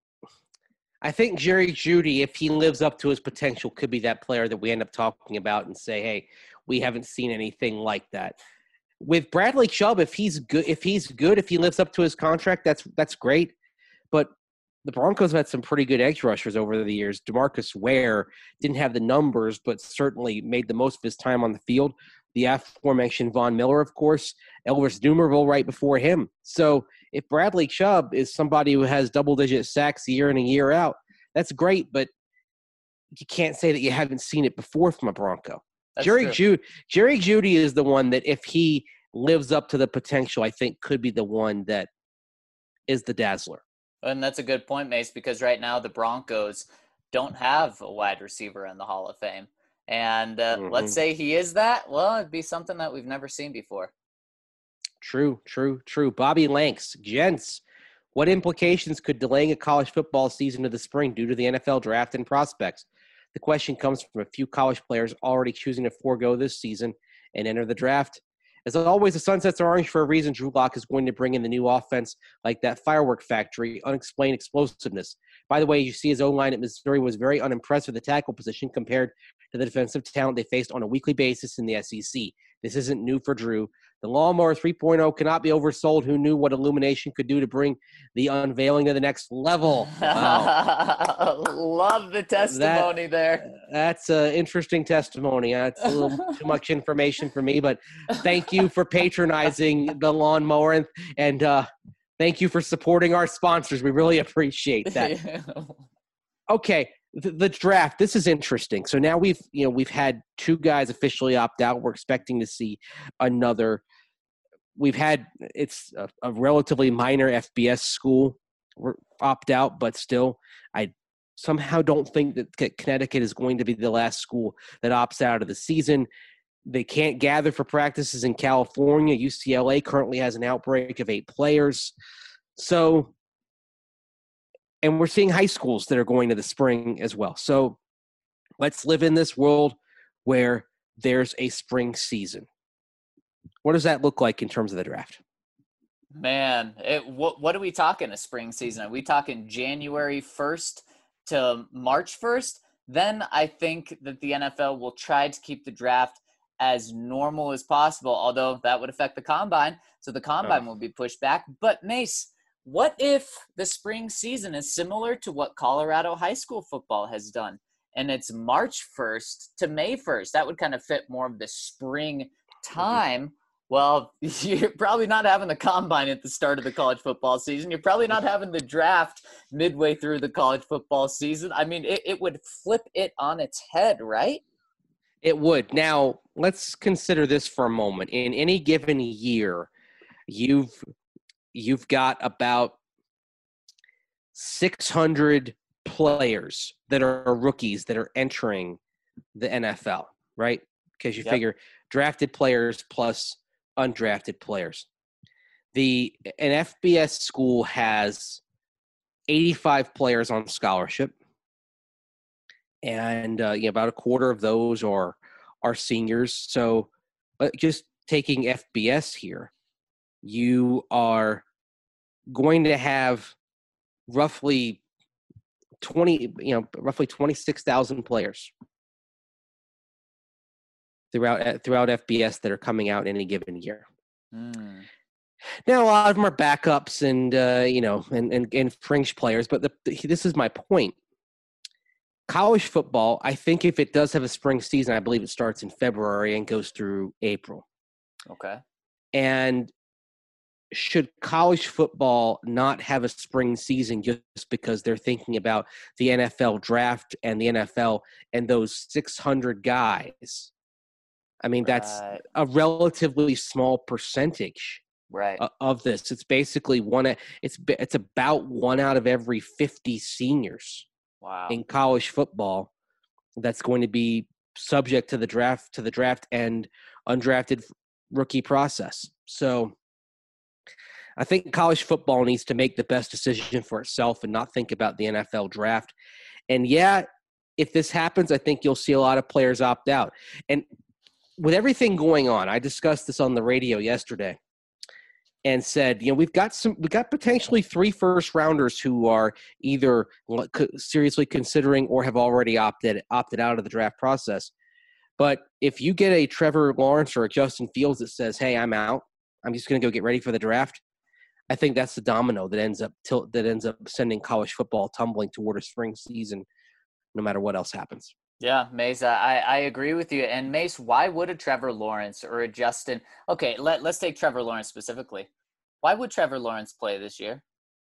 I think Jerry Jeudy, if he lives up to his potential, could be that player that we end up talking about and say, "Hey, we haven't seen anything like that." With Bradley Chubb, if he lives up to his contract, that's great. But the Broncos have had some pretty good edge rushers over the years. DeMarcus Ware didn't have the numbers, but certainly made the most of his time on the field. The aforementioned Von Miller, of course, Elvis Dumervil right before him. So if Bradley Chubb is somebody who has double-digit sacks year in and year out, that's great, but you can't say that you haven't seen it before from a Bronco. Jerry Jeudy is the one that if he lives up to the potential, I think could be the one that is the dazzler. And that's a good point, Mace, because right now the Broncos don't have a wide receiver in the Hall of Fame. And let's say he is that. Well, it'd be something that we've never seen before. True. Bobby Lanks, gents, what implications could delaying a college football season to the spring due to the NFL draft and prospects? The question comes from a few college players already choosing to forego this season and enter the draft. As always, the sun sets orange for a reason. Drew Lock is going to bring in the new offense like that firework factory, unexplained explosiveness. By the way, you see his O-line at Missouri was very unimpressed with the tackle position compared to the defensive talent they faced on a weekly basis in the SEC. This isn't new for Drew. The Lawnmower 3.0 cannot be oversold. Who knew what Illumination could do to bring the unveiling to the next level? Wow. Love the testimony there. That's an interesting testimony. That's a little too much information for me, but thank you for patronizing the Lawnmower and thank you for supporting our sponsors. We really appreciate that. Okay. The draft, this is interesting. So now we've had 2 guys officially opt out. We're expecting to see another. It's a relatively minor FBS school opt out, but still, I somehow don't think that Connecticut is going to be the last school that opts out of the season. They can't gather for practices in California. UCLA currently has an outbreak of 8 players. So, and we're seeing high schools that are going to the spring as well. So let's live in this world where there's a spring season. What does that look like in terms of the draft? Man, what are we talking a spring season? Are we talking January 1st to March 1st? then I think that the NFL will try to keep the draft as normal as possible, although that would affect the combine. So the combine will be pushed back. But Mace, what if the spring season is similar to what Colorado high school football has done? And it's March 1st to May 1st. That would kind of fit more of the spring time. Well, you're probably not having the combine at the start of the college football season. You're probably not having the draft midway through the college football season. I mean, it would flip it on its head, right? It would. Now, let's consider this for a moment. In any given year, you've got about 600 players that are rookies that are entering the NFL, right? Because you figure drafted players plus undrafted players. An FBS school has 85 players on scholarship, and about a quarter of those are seniors. So just taking FBS here, you are going to have roughly 26,000 players throughout FBS that are coming out in any given year. Now, a lot of them are backups and and fringe players, but this is my point. College football, I think if it does have a spring season, I believe it starts in February and goes through April. Okay. And should college football not have a spring season just because they're thinking about the NFL draft and the NFL and those 600 guys? I mean, that's a relatively small percentage of this. It's basically it's about 1 out of every 50 seniors in college football that's going to be subject to the draft and undrafted rookie process. So I think college football needs to make the best decision for itself and not think about the NFL draft. And if this happens, I think you'll see a lot of players opt out. And with everything going on, I discussed this on the radio yesterday and said, we've got potentially 3 first rounders who are either seriously considering or have already opted out of the draft process. But if you get a Trevor Lawrence or a Justin Fields that says, "Hey, I'm out. I'm just going to go get ready for the draft," I think that's the domino that ends up sending college football tumbling toward a spring season, no matter what else happens. Yeah, Mace, I agree with you. And Mace, why would a Trevor Lawrence or a Justin – okay, let's take Trevor Lawrence specifically. Why would Trevor Lawrence play this year?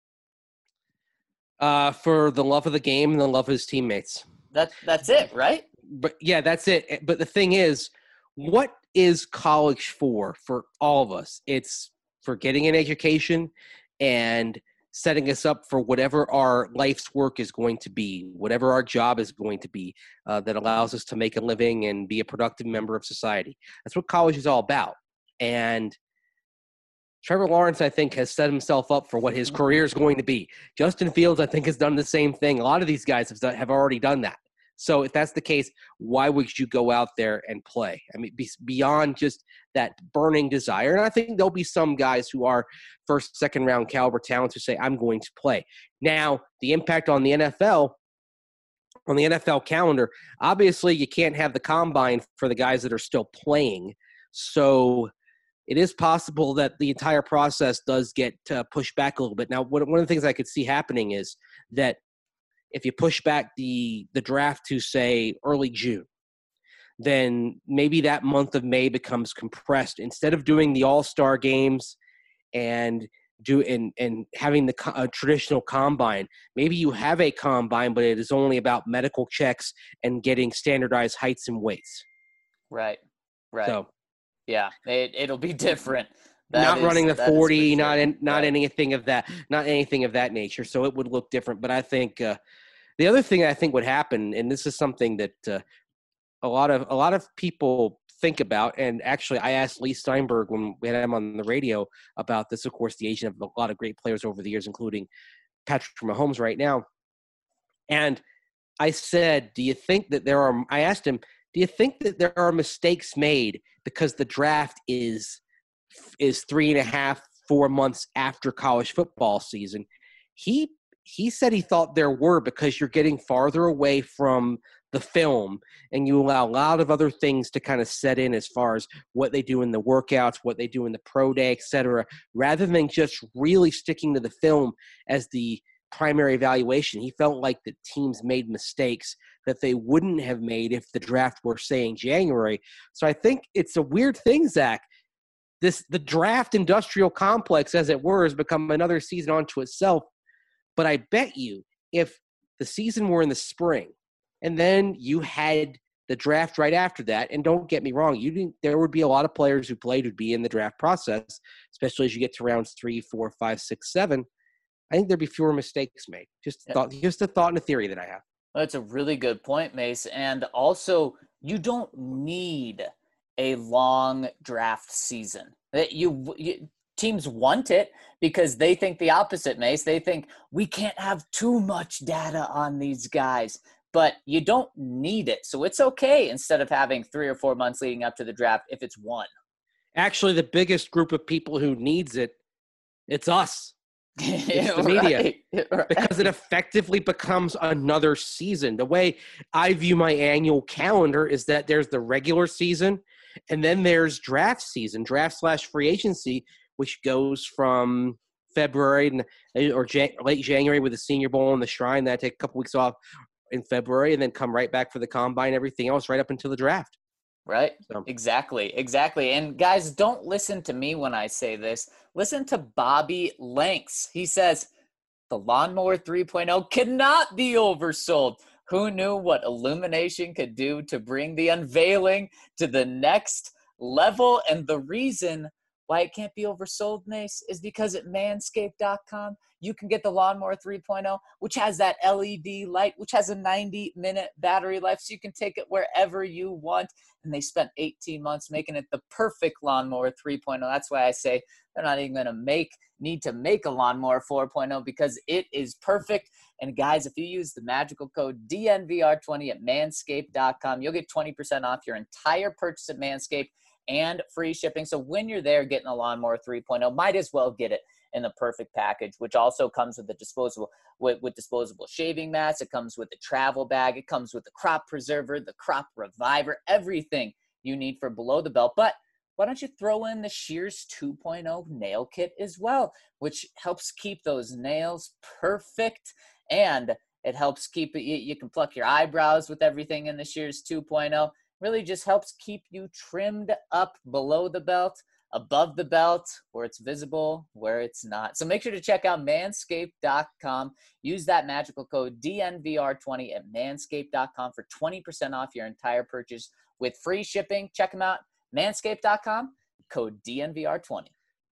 For the love of the game and the love of his teammates. That's it, right? But yeah, that's it. But the thing is, what is college for all of us? It's for getting an education and setting us up for whatever our life's work is going to be, whatever our job is going to be, that allows us to make a living and be a productive member of society. That's what college is all about. And Trevor Lawrence, I think, has set himself up for what his career is going to be. Justin Fields, I think, has done the same thing. A lot of these guys have already done that. So if that's the case, why would you go out there and play? I mean, beyond just that burning desire. And I think there'll be some guys who are first, second round caliber talents who say, I'm going to play. Now, the impact on the NFL calendar, obviously you can't have the combine for the guys that are still playing. So it is possible that the entire process does get pushed back a little bit. Now, one of the things I could see happening is that if you push back the draft to, say, early June, then maybe that month of May becomes compressed. Instead of doing the all-star games and having the traditional combine, maybe you have a combine, but it is only about medical checks and getting standardized heights and weights. Right. So, yeah, it'll be different. Running the 40, not anything of that nature. So it would look different. But I think the other thing I think would happen, and this is something that a lot of people think about, and actually I asked Lee Steinberg when we had him on the radio about this, of course, the agent of a lot of great players over the years, including Patrick Mahomes right now. And I said, I asked him, do you think that there are mistakes made because the draft is 3.5, 4 months after college football season? He said he thought there were, because you're getting farther away from the film, and you allow a lot of other things to kind of set in as far as what they do in the workouts, what they do in the pro day, etc., rather than just really sticking to the film as the primary evaluation. He felt like the teams made mistakes that they wouldn't have made if the draft were, say, in January. So I think it's a weird thing, Zach. The draft industrial complex, as it were, has become another season unto itself. But I bet you if the season were in the spring and then you had the draft right after that, and don't get me wrong, there would be a lot of players who played who'd be in the draft process, especially as you get to rounds 3, 4, 5, 6, 7. I think there'd be fewer mistakes made. Just a thought and a theory that I have. Well, that's a really good point, Mace. And also, you don't need a long draft season. Teams want it because they think the opposite, Mace. They think we can't have too much data on these guys, but you don't need it. So it's okay instead of having 3 or 4 months leading up to the draft if it's one. Actually, the biggest group of people who needs it, it's us. It's the media. Right. Because it effectively becomes another season. The way I view my annual calendar is that there's the regular season and then there's draft season, draft/free agency, which goes from February or late January with the Senior Bowl and the Shrine. Then I take a couple weeks off in February and then come right back for the Combine, everything else right up until the draft. Right. So. Exactly. And guys, don't listen to me when I say this. Listen to Bobby Lanks. He says, the Lawnmower 3.0 cannot be oversold. Who knew what Illumination could do to bring the unveiling to the next level? And the reason why it can't be oversold, Mace, is because at manscaped.com, you can get the Lawnmower 3.0, which has that LED light, which has a 90-minute battery life, so you can take it wherever you want. And they spent 18 months making it the perfect Lawnmower 3.0. That's why I say they're not even going to need to make a Lawnmower 4.0 because it is perfect. And guys, if you use the magical code DNVR20 at manscaped.com, you'll get 20% off your entire purchase at Manscaped and free shipping. So when you're there getting a Lawnmower 3.0, might as well get it in the perfect package, which also comes with the disposable shaving mats. It comes with the travel bag. It comes with the crop preserver, the crop reviver, everything you need for below the belt. But why don't you throw in the Shears 2.0 nail kit as well, which helps keep those nails perfect, and it helps keep it, you can pluck your eyebrows with everything in the Shears 2.0. Really just helps keep you trimmed up below the belt, above the belt, where it's visible, where it's not. So make sure to check out manscaped.com. Use that magical code DNVR20 at manscaped.com for 20% off your entire purchase with free shipping. Check them out, manscaped.com, code DNVR20.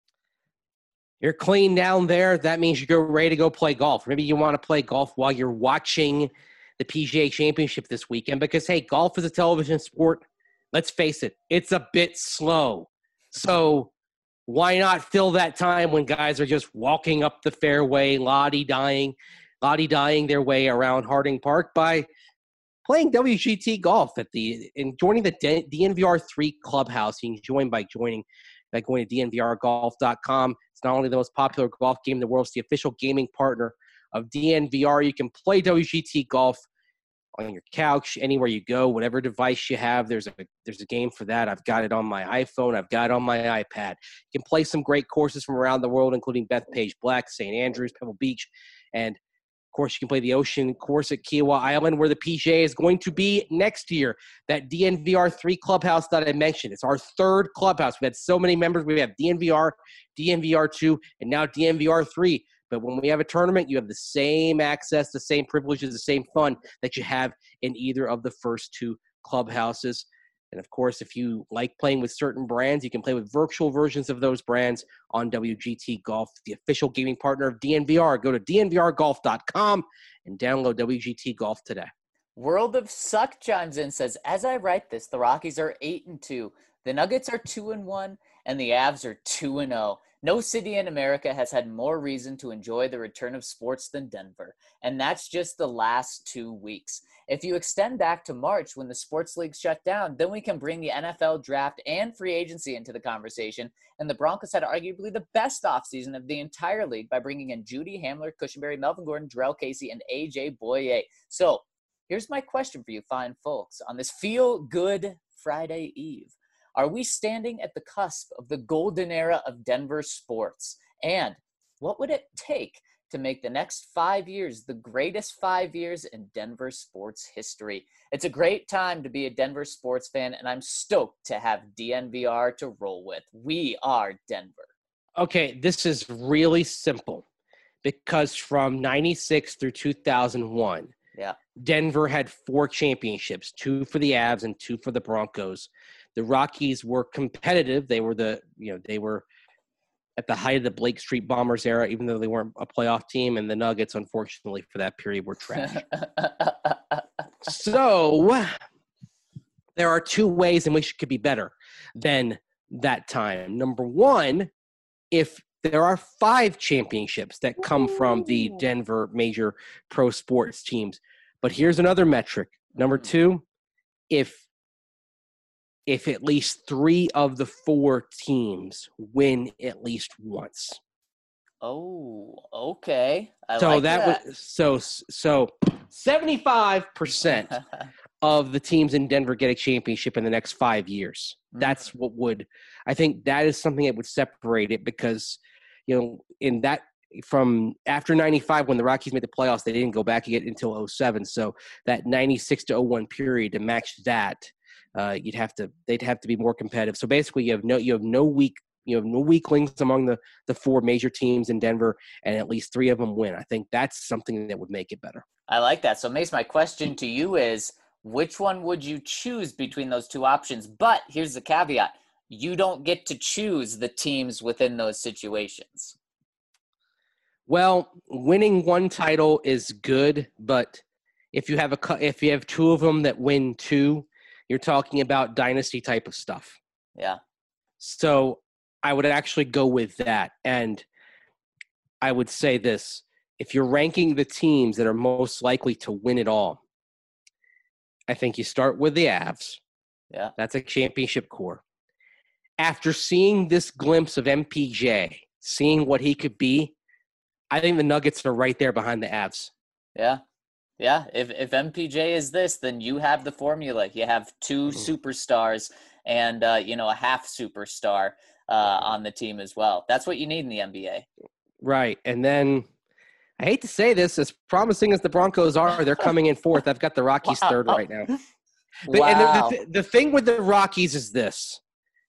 You're clean down there. That means you're ready to go play golf. Maybe you want to play golf while you're watching the PGA Championship this weekend because, hey, golf is a television sport. Let's face it, it's a bit slow. So why not fill that time when guys are just walking up the fairway, lottie-dying their way around Harding Park by playing WGT golf and joining the DNVR3 Clubhouse. You can join by going to DNVRgolf.com. It's not only the most popular golf game in the world, it's the official gaming partner of DNVR. You can play WGT golf on your couch, anywhere you go, whatever device you have. There's a game for that. I've got it on my iPhone. I've got it on my iPad. You can play some great courses from around the world, including Bethpage Black, St. Andrews, Pebble Beach, and of course, you can play the Ocean course at Kiowa Island, where the PGA is going to be next year. That DNVR3 clubhouse that I mentioned. It's our third clubhouse. We've had so many members. We have DNVR, DNVR2, and now DNVR3. But when we have a tournament, you have the same access, the same privileges, the same fun that you have in either of the first two clubhouses. And, of course, if you like playing with certain brands, you can play with virtual versions of those brands on WGT Golf, the official gaming partner of DNVR. Go to DNVRgolf.com and download WGT Golf today. World of Suck chimes in, says, as I write this, the Rockies are 8-2, the Nuggets are 2-1, and the Avs are 2-0. No city in America has had more reason to enjoy the return of sports than Denver, and that's just the last 2 weeks. If you extend back to March when the sports league shut down, then we can bring the NFL draft and free agency into the conversation, and the Broncos had arguably the best offseason of the entire league by bringing in Judy Hamler, Cushenberry, Melvin Gordon, Jarrell Casey, and A.J. Boye. So here's my question for you fine folks on this feel-good Friday Eve. Are we standing at the cusp of the golden era of Denver sports? And what would it take to make the next 5 years the greatest 5 years in Denver sports history? It's a great time to be a Denver sports fan, and I'm stoked to have DNVR to roll with. We are Denver. Okay, this is really simple because from 96 through 2001, Denver had 4 championships, 2 for the Avs and 2 for the Broncos. The Rockies were competitive. They were they were at the height of the Blake Street Bombers era, even though they weren't a playoff team, and the Nuggets, unfortunately, for that period were trash. So there are 2 ways in which it could be better than that time. Number one, if there are 5 championships that come from the Denver major pro sports teams. But here's another metric. Number 2, if at least 3 of the 4 teams win at least once. Oh, okay. So 75% of the teams in Denver get a championship in the next 5 years. That's what would – I think that is something that would separate it because, in that – from after 95 when the Rockies made the playoffs, they didn't go back again until 07. So that 96 to 01 period to match that, they'd have to be more competitive. So basically you have no weaklings among the 4 major teams in Denver, and at least 3 of them win. I think that's something that would make it better. I like that. So Mace, my question to you is, which one would you choose between those 2 options? But here's the caveat. You don't get to choose the teams within those situations. Well, winning 1 title is good, but if you have 2 of them that win 2, you're talking about dynasty type of stuff. Yeah. So I would actually go with that. And I would say this, if you're ranking the teams that are most likely to win it all, I think you start with the Avs. Yeah. That's a championship core. After seeing this glimpse of MPJ, seeing what he could be, I think the Nuggets are right there behind the Avs. Yeah. Yeah. If MPJ is this, then you have the formula. You have 2 superstars and, a half superstar on the team as well. That's what you need in the NBA. Right. And then I hate to say this, as promising as the Broncos are, they're coming in 4th. I've got the Rockies 3rd right now. Wow. And the thing with the Rockies is this.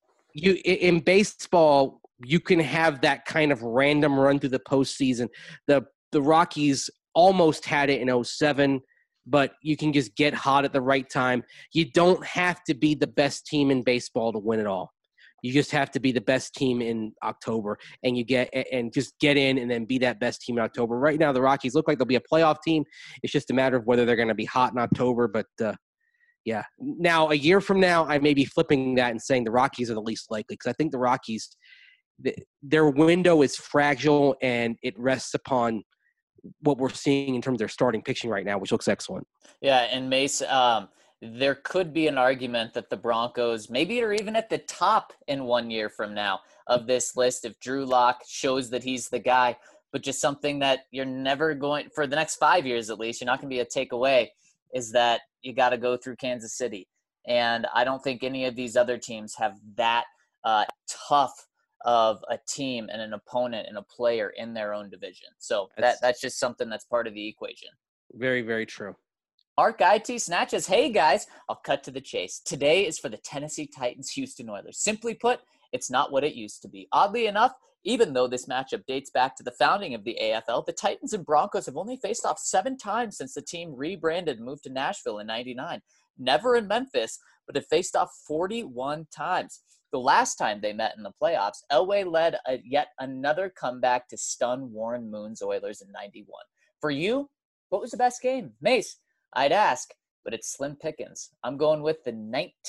In baseball, you can have that kind of random run through the postseason. The Rockies almost had it in 07, but you can just get hot at the right time. You don't have to be the best team in baseball to win it all. You just have to be the best team in October, and just get in and then be that best team in October. Right now, the Rockies look like they'll be a playoff team. It's just a matter of whether they're going to be hot in October, but yeah. Now, a year from now, I may be flipping that and saying the Rockies are the least likely because I think the Rockies – their window is fragile, and it rests upon what we're seeing in terms of their starting pitching right now, which looks excellent. Yeah, and Mace, there could be an argument that the Broncos maybe are even at the top in 1 year from now of this list if Drew Lock shows that he's the guy, but just something that you're never going – for the next 5 years at least, you're not going to be a takeaway is that you got to go through Kansas City. And I don't think any of these other teams have that tough of a team and an opponent and a player in their own division. So that's just something that's part of the equation. Very, very true. Mark IT snatches. Hey guys, I'll cut to the chase. Today is for the Tennessee Titans Houston Oilers. Simply put, it's not what it used to be. Oddly enough, even though this matchup dates back to the founding of the AFL, the Titans and Broncos have only faced off 7 times since the team rebranded and moved to Nashville in '99. Never in Memphis, but have faced off 41 times. The last time they met in the playoffs, Elway led yet another comeback to stun Warren Moon's Oilers in '91. For you, what was the best game? Mace, I'd ask, but it's slim pickings. I'm going with the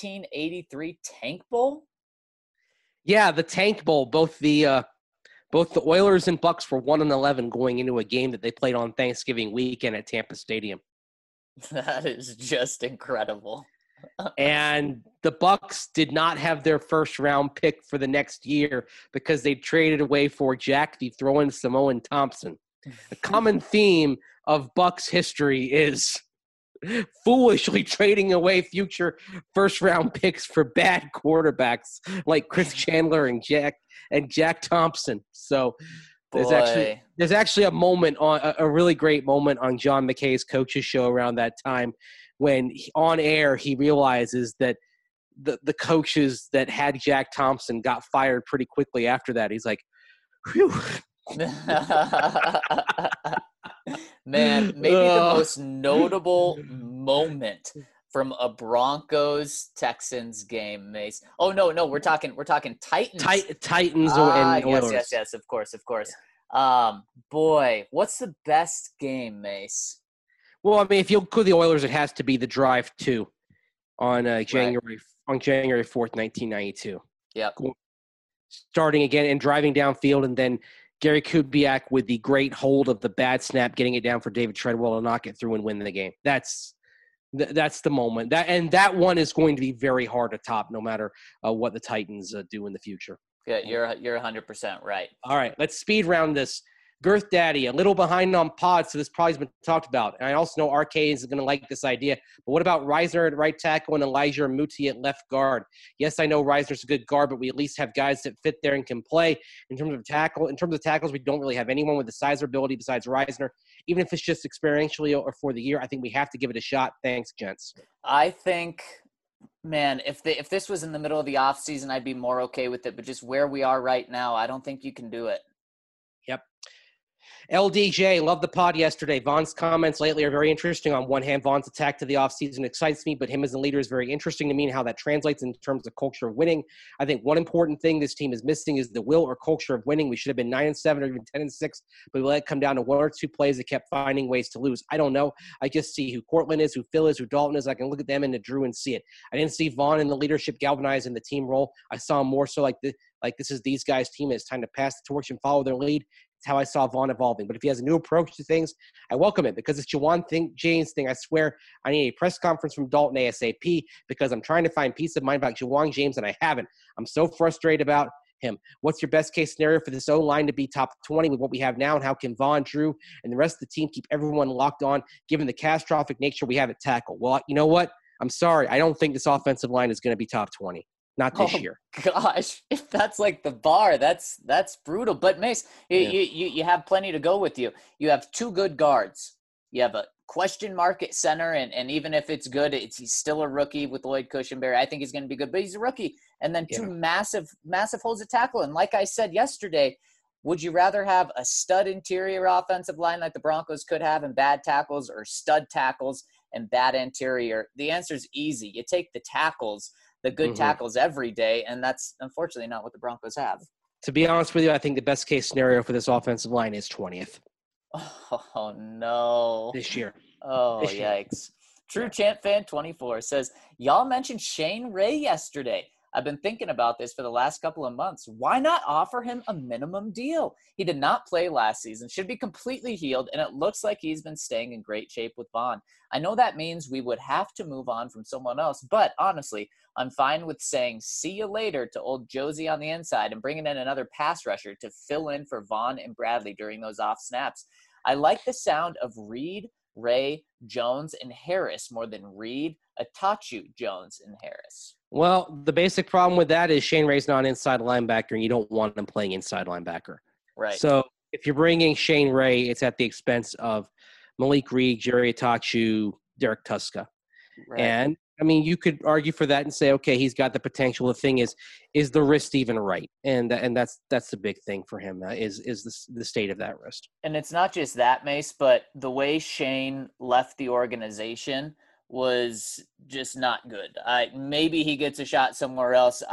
1983 Tank Bowl. Yeah, the Tank Bowl. Both the Oilers and Bucks were 1-11 going into a game that they played on Thanksgiving weekend at Tampa Stadium. That is just incredible. And the Bucks did not have their first round pick for the next year because they traded away for Jack the Throwing Samoan Thompson. The common theme of Bucks history is foolishly trading away future first-round picks for bad quarterbacks like Chris Chandler and Jack Thompson. So there's Boy. actually a really great moment on John McKay's coaches show around that time when on air he realizes that the coaches that had Jack Thompson got fired pretty quickly after that. He's like, whew. Man, maybe the most notable moment from a Broncos Texans game, Mace. Oh no, we're talking Titans. Titans and Oilers. Yes, of course. Boy, what's the best game, Mace? Well, I mean, if you include the Oilers, it has to be the drive 2 on January 4th, 1992. Yep. Starting again and driving downfield, and then Gary Kubiak with the great hold of the bad snap, getting it down for David Treadwell to knock it through and win the game. That's the moment. That one is going to be very hard to top, no matter what the Titans do in the future. Yeah, you're 100% right. All right, let's speed round this. Girth Daddy, a little behind on pods, so this probably has been talked about. And I also know Arcade is going to like this idea. But what about Reisner at right tackle and Elijah Muti at left guard? Yes, I know Reisner's a good guard, but we at least have guys that fit there and can play. In terms of tackles, we don't really have anyone with the size or ability besides Reisner. Even if it's just experientially or for the year, I think we have to give it a shot. Thanks, gents. I think, man, if this was in the middle of the offseason, I'd be more okay with it. But just where we are right now, I don't think you can do it. Yep. LDJ, love the pod yesterday. Vaughn's comments lately are very interesting. On one hand, Vaughn's attack to the offseason excites me, but him as a leader is very interesting to me and how that translates in terms of culture of winning. I think one important thing this team is missing is the will or culture of winning. We should have been 9-7 or even 10-6, but we let it come down to one or two plays that kept finding ways to lose. I don't know. I just see who Cortland is, who Phil is, who Dalton is. I can look at them and the Drew and see it. I didn't see Vaughn in the leadership galvanized in the team role. I saw him more so like this is these guys' team. It's time to pass the torch and follow their lead. It's how I saw Vaughn evolving. But if he has a new approach to things, I welcome it because it's Juwan James thing. I swear I need a press conference from Dalton ASAP because I'm trying to find peace of mind about Juwan James, and I haven't. I'm so frustrated about him. What's your best case scenario for this O-line to be top 20 with what we have now, and how can Vaughn, Drew, and the rest of the team keep everyone locked on given the catastrophic nature we have at tackle? Well, you know what? I'm sorry. I don't think this offensive line is going to be top 20. Not this year. Gosh, if that's like the bar, that's brutal. But Mace, you have plenty to go with you. You have two good guards. You have a question mark at center, and even if it's good, he's still a rookie with Lloyd Cushenberry. I think he's going to be good, but he's a rookie. And then two massive holes at tackle. And like I said yesterday, would you rather have a stud interior offensive line like the Broncos could have and bad tackles, or stud tackles and bad interior? The answer is easy. You take the tackles, the good tackles every day, and that's unfortunately not what the Broncos have. To be honest with you, I think the best case scenario for this offensive line is 20th. Oh, no. This year. Oh, yikes. True Champ Fan 24 says, y'all mentioned Shane Ray yesterday. I've been thinking about this for the last couple of months. Why not offer him a minimum deal? He did not play last season, should be completely healed, and it looks like he's been staying in great shape with Vaughn. I know that means we would have to move on from someone else, but honestly, I'm fine with saying see you later to old Josie on the inside and bringing in another pass rusher to fill in for Vaughn and Bradley during those off snaps. I like the sound of Reed, Ray, Jones, and Harris more than Reed, Atachu, Jones, and Harris. Well, the basic problem with that is Shane Ray's not an inside linebacker, and you don't want him playing inside linebacker. Right. So if you're bringing Shane Ray, it's at the expense of Malik Reed, Jerry Atachu, Derek Tuska. Right. And, I mean, you could argue for that and say, okay, he's got the potential. The thing is the wrist even right? And that's the big thing for him is the state of that wrist. And it's not just that, Mace, but the way Shane left the organization was just not good. Maybe he gets a shot somewhere else.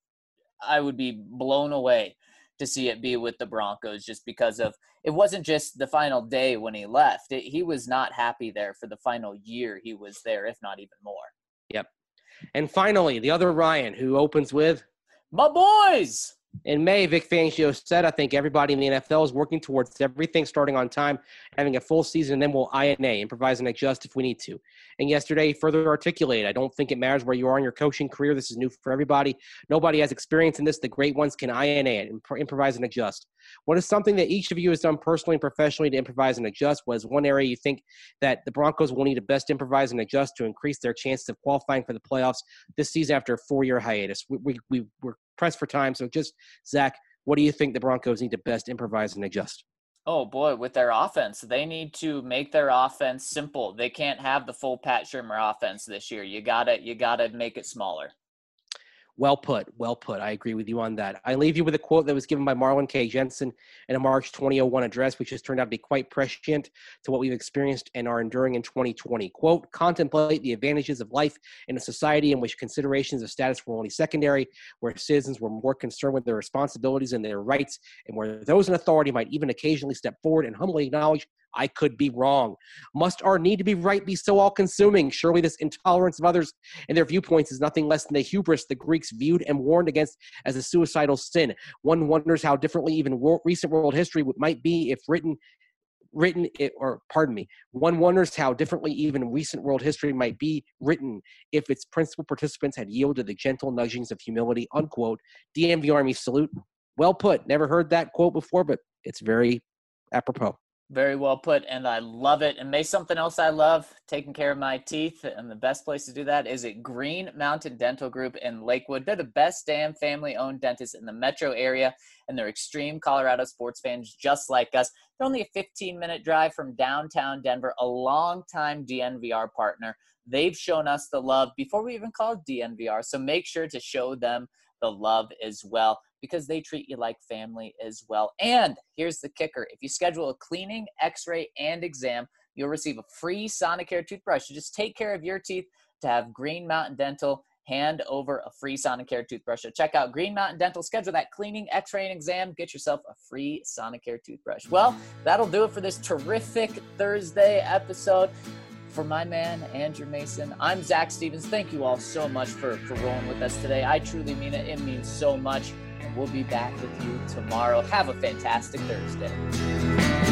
I would be blown away to see it be with the Broncos just because of it wasn't just the final day when he left. He was not happy there for the final year he was there, if not even more. Yep. And finally, the other Ryan who opens with my boys. In May, Vic Fangio said, I think everybody in the NFL is working towards everything starting on time, having a full season, and then we'll INA, improvise and adjust if we need to. And yesterday, he further articulated, I don't think it matters where you are in your coaching career. This is new for everybody. Nobody has experience in this. The great ones can INA it, improvise and adjust. What is something that each of you has done personally and professionally to improvise and adjust? Was one area you think that the Broncos will need to best improvise and adjust to increase their chances of qualifying for the playoffs this season after a 4-year hiatus? We're pressed for time, so just, Zach, what do you think the Broncos need to best improvise and adjust? Oh, boy, with their offense, they need to make their offense simple. They can't have the full Pat Shurmur offense this year. You gotta make it smaller. Well put. Well put. I agree with you on that. I leave you with a quote that was given by Marlon K. Jensen in a March 2001 address, which has turned out to be quite prescient to what we've experienced and are enduring in 2020. Quote, contemplate the advantages of life in a society in which considerations of status were only secondary, where citizens were more concerned with their responsibilities and their rights, and where those in authority might even occasionally step forward and humbly acknowledge, I could be wrong. Must our need to be right be so all-consuming? Surely this intolerance of others and their viewpoints is nothing less than the hubris the Greeks viewed and warned against as a suicidal sin. One wonders how differently even recent world history might be if one wonders how differently even recent world history might be written if its principal participants had yielded the gentle nudgings of humility, unquote. DMV Army salute. Well put. Never heard that quote before, but it's very apropos. Very well put, and I love it. And may something else I love, taking care of my teeth, and the best place to do that is at Green Mountain Dental Group in Lakewood. They're the best damn family-owned dentist in the metro area, and they're extreme Colorado sports fans just like us. They're only a 15-minute drive from downtown Denver, a longtime DNVR partner. They've shown us the love before we even called DNVR, so make sure to show them the love as well, because they treat you like family as well. And here's the kicker. If you schedule a cleaning, x-ray, and exam, you'll receive a free Sonicare toothbrush. You just take care of your teeth to have Green Mountain Dental hand over a free Sonicare toothbrush. So check out Green Mountain Dental. Schedule that cleaning, x-ray, and exam. Get yourself a free Sonicare toothbrush. Well, that'll do it for this terrific Thursday episode. For my man, Andrew Mason, I'm Zach Stevens. Thank you all so much for rolling with us today. I truly mean it. It means so much. And we'll be back with you tomorrow. Have a fantastic Thursday.